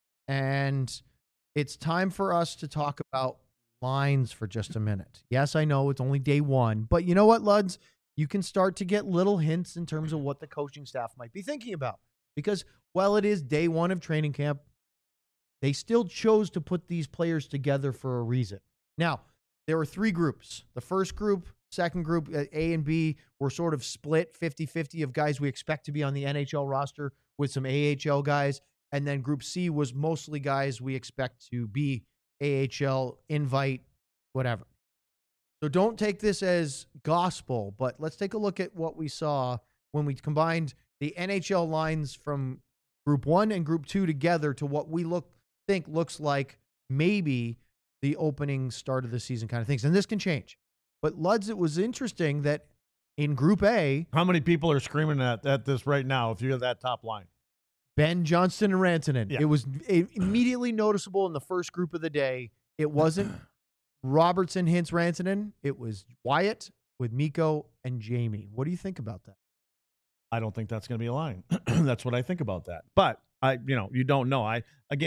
and it's time for us to talk about lines for just a minute. Yes, I know it's only day 1, but you know what, Luds? You can start to get little hints in terms of what the coaching staff might be thinking about. Because while it is day 1 of training camp, they still chose to put these players together for a reason. Now, there were 3 groups. The first group, second group, A and B, were sort of split 50-50 of guys we expect to be on the NHL roster with some AHL guys. And then group C was mostly guys we expect to be AHL, invite, whatever. So don't take this as gospel, but let's take a look at what we saw when we combined the NHL lines from group 1 and group 2 together to what we think looks like maybe the opening start of the season kind of things. And this can change. But Luds, it was interesting that in group A, How many people are screaming at this right now if you have that top line? Ben Johnston and Rantanen. Yeah. It was immediately noticeable in the first group of the day. It wasn't Robertson, Hintz, Rantanen. It was Wyatt with Mikko and Jamie. What do you think about that? I don't think that's going to be a line. That's what I think about that. But you don't know.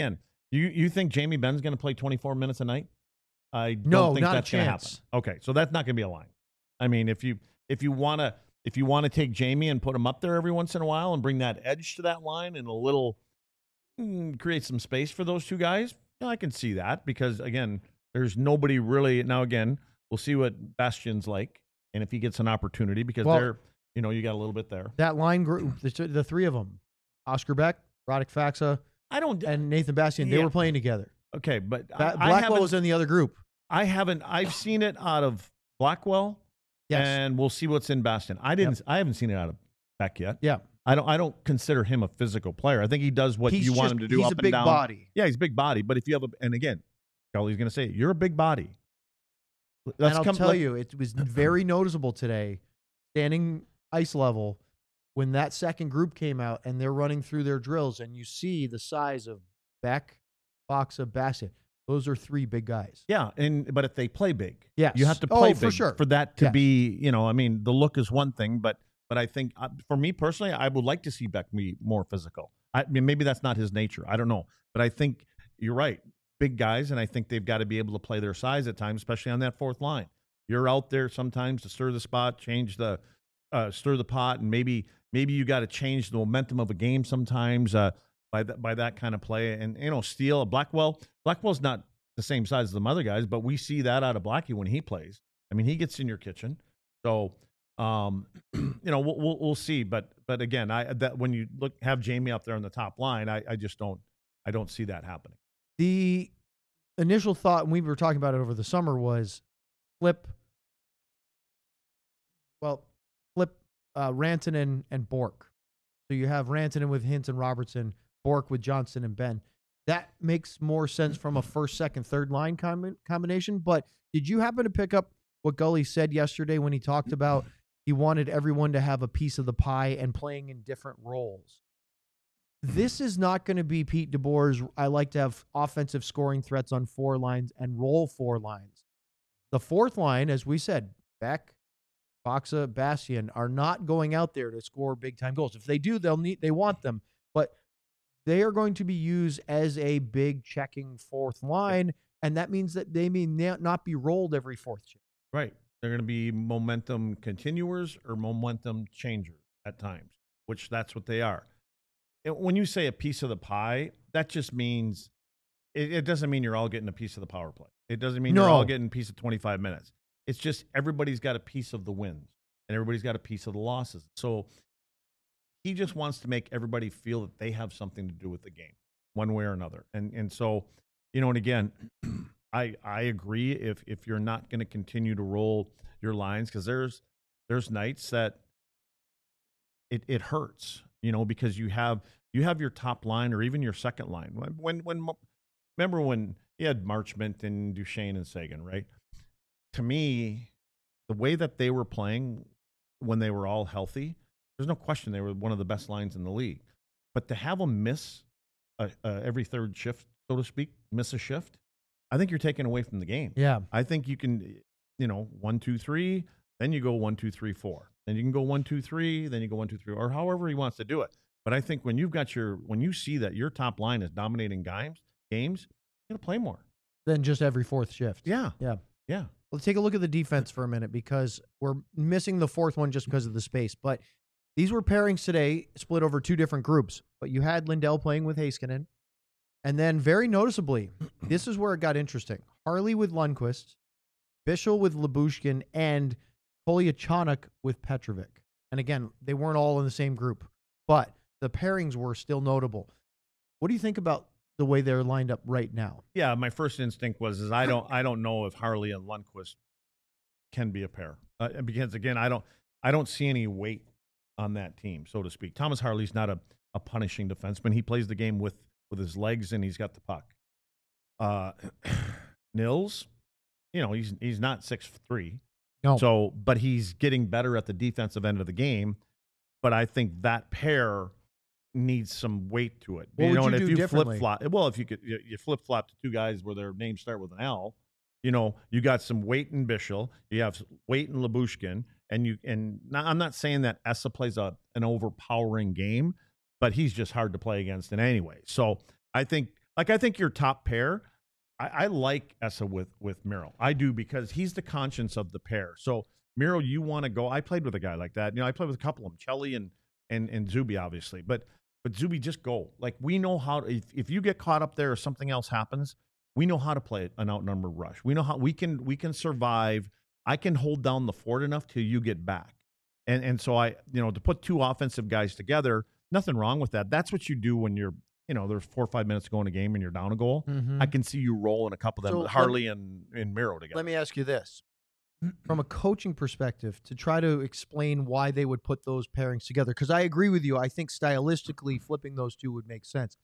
You think Jamie Benn's going to play 24 minutes a night? I don't No, think not a that's going to happen. chance. Okay, so that's not going to be a line. I mean, if you want to take Jamie and put him up there every once in a while and bring that edge to that line and a little create some space for those 2 guys, I can see that because again, there's nobody really now. Again, we'll see what Bastian's like and if he gets an opportunity because they're you got a little bit there. That line group, the 3 of them, Oscar Beck, Radek Faxa, and Nathan Bastian, they were playing together. Okay, but Blackwell was in the other group. I've seen it out of Blackwell. Yes. And we'll see what's in Bastion. I haven't seen it out of Beck yet. Yeah. I don't consider him a physical player. I think he does what you want him to do he's up a and big down. body. Yeah, he's a big body. But if you have and again, Charlie's going to say, you're a big body. And I'll tell you, it was very noticeable today, standing ice level, when that second group came out and they're running through their drills and you see the size of Beck, Faxa, Bastian. Those are 3 big guys. Yeah, but if they play big, yes. you have to play big for sure. for that to be, the look is one thing, but I think for me personally, I would like to see Beck be more physical. I mean, maybe that's not his nature. I don't know. But I think you're right. Big guys, and I think they've got to be able to play their size at times, especially on that 4th line. You're out there sometimes to stir the spot, stir the pot, and maybe you got to change the momentum of a game sometimes by that kind of play. And, Steele, Blackwell's not the same size as the other guys, but we see that out of Blackie when he plays. I mean, he gets in your kitchen. So, we'll see. But again, when you have Jamie up there on the top line, I just don't see that happening. The initial thought, and we were talking about it over the summer, was flip Rantanen and Bork. So you have Rantanen with Hintz and Robertson, Bork with Johnston and Ben. that makes more sense from a first, second, third line combination. But did you happen to pick up what Gully said yesterday when he talked about he wanted everyone to have a piece of the pie and playing in different roles? This is not going to be Pete DeBoer's, I like to have offensive scoring threats on 4 lines and roll 4 lines. The fourth line, as we said, Beck, Boxa, Bastian are not going out there to score big-time goals. If they do, they want them. But they are going to be used as a big checking fourth line, and that means that they may not be rolled every fourth shift. Right. They're going to be momentum continuers or momentum changers at times, which that's what they are. When you say a piece of the pie, that just means it doesn't mean you're all getting a piece of the power play. It doesn't mean you're all getting a piece of 25 minutes. It's just everybody's got a piece of the wins and everybody's got a piece of the losses. So he just wants to make everybody feel that they have something to do with the game one way or another. And so, and again, I agree if you're not going to continue to roll your lines, because there's nights that it hurts, because you have your top line or even your second line. Remember when you had Marchment and Duchesne and Sagan, right? To me, the way that they were playing when they were all healthy, there's no question they were one of the best lines in the league. But to have them miss every third shift, so to speak, miss a shift, I think you're taking away from the game. Yeah. I think you can, 1, 2, 3, then you go 1, 2, 3, 4. Then you can go 1, 2, 3, then you go 1, 2, 3, or however he wants to do it. But I think when you see that your top line is dominating games, you're going to play more Than just every fourth shift. Yeah. Yeah. Yeah. Let's take a look at the defense for a minute, because we're missing the fourth one just because of the space. But these were pairings today split over 2 different groups. But you had Lindell playing with Heiskanen. And then very noticeably, this is where it got interesting. Harley with Lundqvist, Bischel with Lyubushkin, and Kolyachonok with Petrovic. And again, they weren't all in the same group, but the pairings were still notable. What do you think about the way they're lined up right now? Yeah, my first instinct was I don't know if Harley and Lundqvist can be a pair, because again I don't see any weight on that team, so to speak. Thomas Harley's not a punishing defenseman. He plays the game with his legs and he's got the puck. Nils, he's not 6'3". No. So, but he's getting better at the defensive end of the game. But I think that pair needs some weight to it. What would you do if you differently? if you flip flop to 2 guys where their names start with an L, you got some weight in Bischel, you have weight in Lyubushkin, and I'm not saying that Essa plays an overpowering game, but he's just hard to play against in any way. So I think your top pair, I like Essa with Miro. I do, because he's the conscience of the pair. So Miro, you want to go. I played with a guy like that. I played with a couple of them, Chelly and Zuby, obviously. But Zuby, just go. Like, we know how to, if you get caught up there or something else happens, we know how to play an outnumbered rush. We know how we can survive. I can hold down the fort enough till you get back. And so to put 2 offensive guys together, nothing wrong with that. That's what you do when you're, there's 4 or 5 minutes to go in a game and you're down a goal. Mm-hmm. I can see you rolling a couple of them, So Harley and Miro together. Let me ask you this. From a coaching perspective, to try to explain why they would put those pairings together, because I agree with you. I think stylistically flipping those 2 would make sense.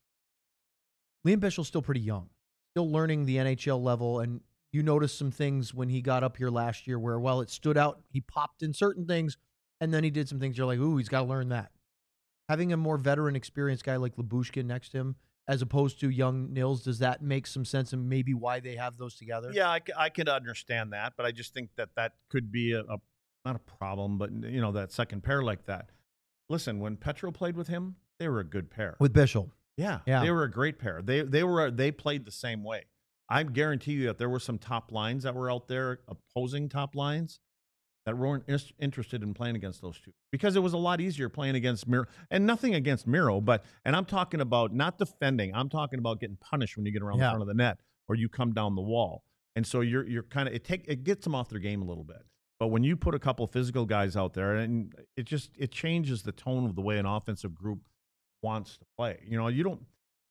Liam Bischel's still pretty young, still learning the NHL level, and you noticed some things when he got up here last year where, well, it stood out. He popped in certain things, and then he did some things you're like, ooh, he's got to learn that. Having a more veteran, experienced guy like Lyubushkin next to him, as opposed to young Nils, does that make some sense, and maybe why they have those together? Yeah, I can understand that, but I just think that could be not a problem, but that second pair like that. Listen, when Petro played with him, they were a good pair. With Bischel. Yeah, Yeah. they were a great pair. They played the same way. I guarantee you that there were some top lines that were out there, opposing top lines, that weren't interested in playing against those 2, because it was a lot easier playing against Miro. And nothing against Miro, and I'm talking about not defending. I'm talking about getting punished when you get around the front of the net or you come down the wall. And so you're kind of it gets them off their game a little bit. But when you put a couple physical guys out there, and it changes the tone of the way an offensive group wants to play. You don't.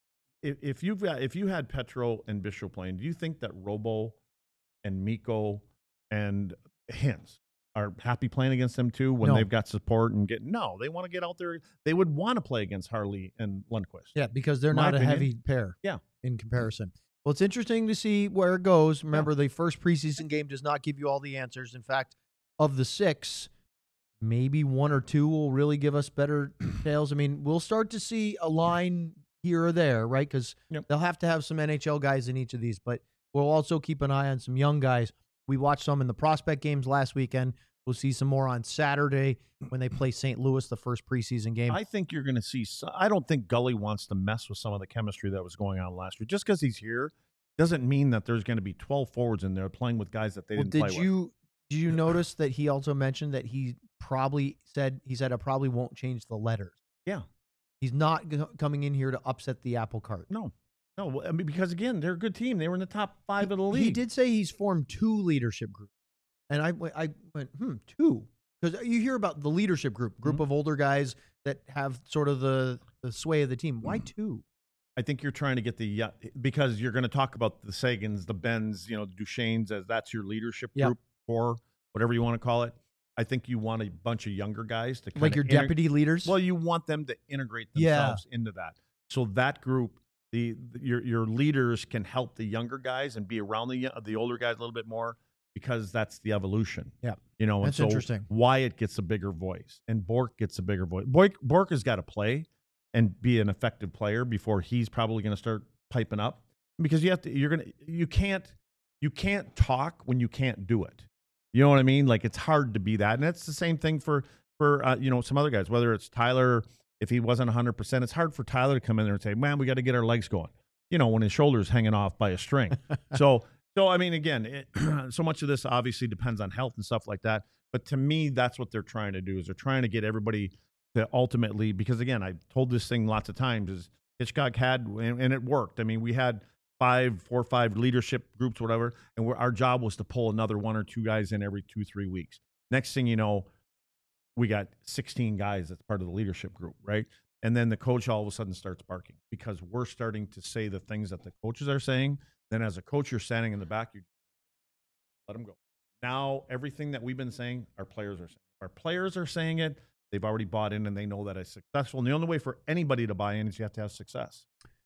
If you had Petro and Bischel playing, do you think that Robo and Mikko and Hintz are happy playing against them too when No. they've got support and they want to get out there. They would want to play against Harley and Lundqvist. Yeah, because they're My not a opinion. heavy pair. Yeah. in comparison. Well, it's interesting to see where it goes. Remember, the first preseason game does not give you all the answers. In fact, of the 6, maybe 1 or 2 will really give us better details. I mean, we'll start to see a line here or there, right? Because they'll have to have some NHL guys in each of these, but we'll also keep an eye on some young guys. We watched some in the prospect games last weekend. We'll see some more on Saturday when they play St. Louis, the first preseason game. I think you're going to see I don't think Gully wants to mess with some of the chemistry that was going on last year. Just because he's here doesn't mean that there's going to be 12 forwards in there playing with guys that they didn't play with. Did you notice that he also mentioned that he said I probably won't change the letters? Yeah. He's not coming in here to upset the apple cart. No, I mean, because again, they're a good team. They were in the top 5 of the league. He did say he's formed 2 leadership groups, and I went 2, because you hear about the leadership group of older guys that have sort of the sway of the team. Why 2? I think you're trying to get because you're going to talk about the Sagans, the Bens, Duchesnes, as that's your leadership group, or whatever you want to call it. I think you want a bunch of younger guys to like your deputy leaders. Well, you want them to integrate themselves into that. So that group, your leaders can help the younger guys and be around the older guys a little bit more, because that's the evolution. Yeah, and that's interesting. Wyatt gets a bigger voice, and Bork gets a bigger voice. Bork has got to play and be an effective player before he's probably going to start piping up, because you can't talk when you can't do it. You know what I mean? Like, it's hard to be that. And it's the same thing for some other guys, whether it's Tyler, if he wasn't 100%, it's hard for Tyler to come in there and say, man, we got to get our legs going, when his shoulder's hanging off by a string. So I mean, again, so much of this obviously depends on health and stuff like that. But to me, that's what they're trying to do, is they're trying to get everybody to ultimately, because again, I've told this thing lots of times, is Hitchcock had, and it worked. I mean, we had 4 or 5 leadership groups, whatever, and our job was to pull another 1 or 2 guys in every 2-3 weeks. Next thing you know, we got 16 guys that's part of the leadership group, right? And then the coach all of a sudden starts barking, because we're starting to say the things that the coaches are saying. Then as a coach, you're standing in the back, you let them go. Now, everything that we've been saying, our players are saying. Our players are saying it. They've already bought in, and they know that it's successful. And the only way for anybody to buy in is you have to have success.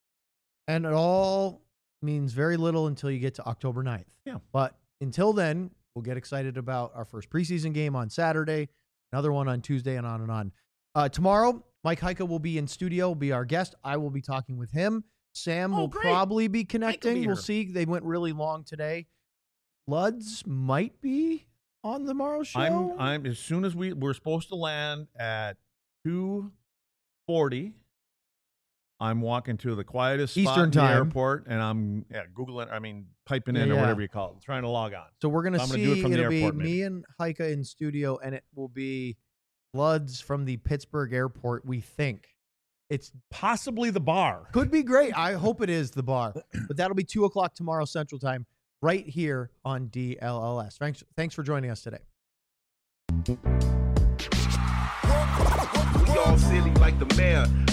And it all means very little until you get to October 9th. Yeah. But until then, we'll get excited about our first preseason game on Saturday, another one on Tuesday, and on and on. Tomorrow, Mike Heika will be in studio, will be our guest. I will be talking with him. Sam will probably be connecting. We'll see. They went really long today. Luds might be on tomorrow's show. I'm as soon as we're supposed to land at 2:40. I'm walking to the quietest spot Eastern in the time. airport, and I'm piping in or whatever you call it, trying to log on. So we're going to I'm see, do it from the it'll be airport, me and Heika in studio, and it will be Luds from the Pittsburgh airport, we think. It's possibly the bar. Could be great. I hope it is the bar. But that'll be 2 o'clock tomorrow Central Time, right here on DLLS. Thanks for joining us today. We all silly like the mayor.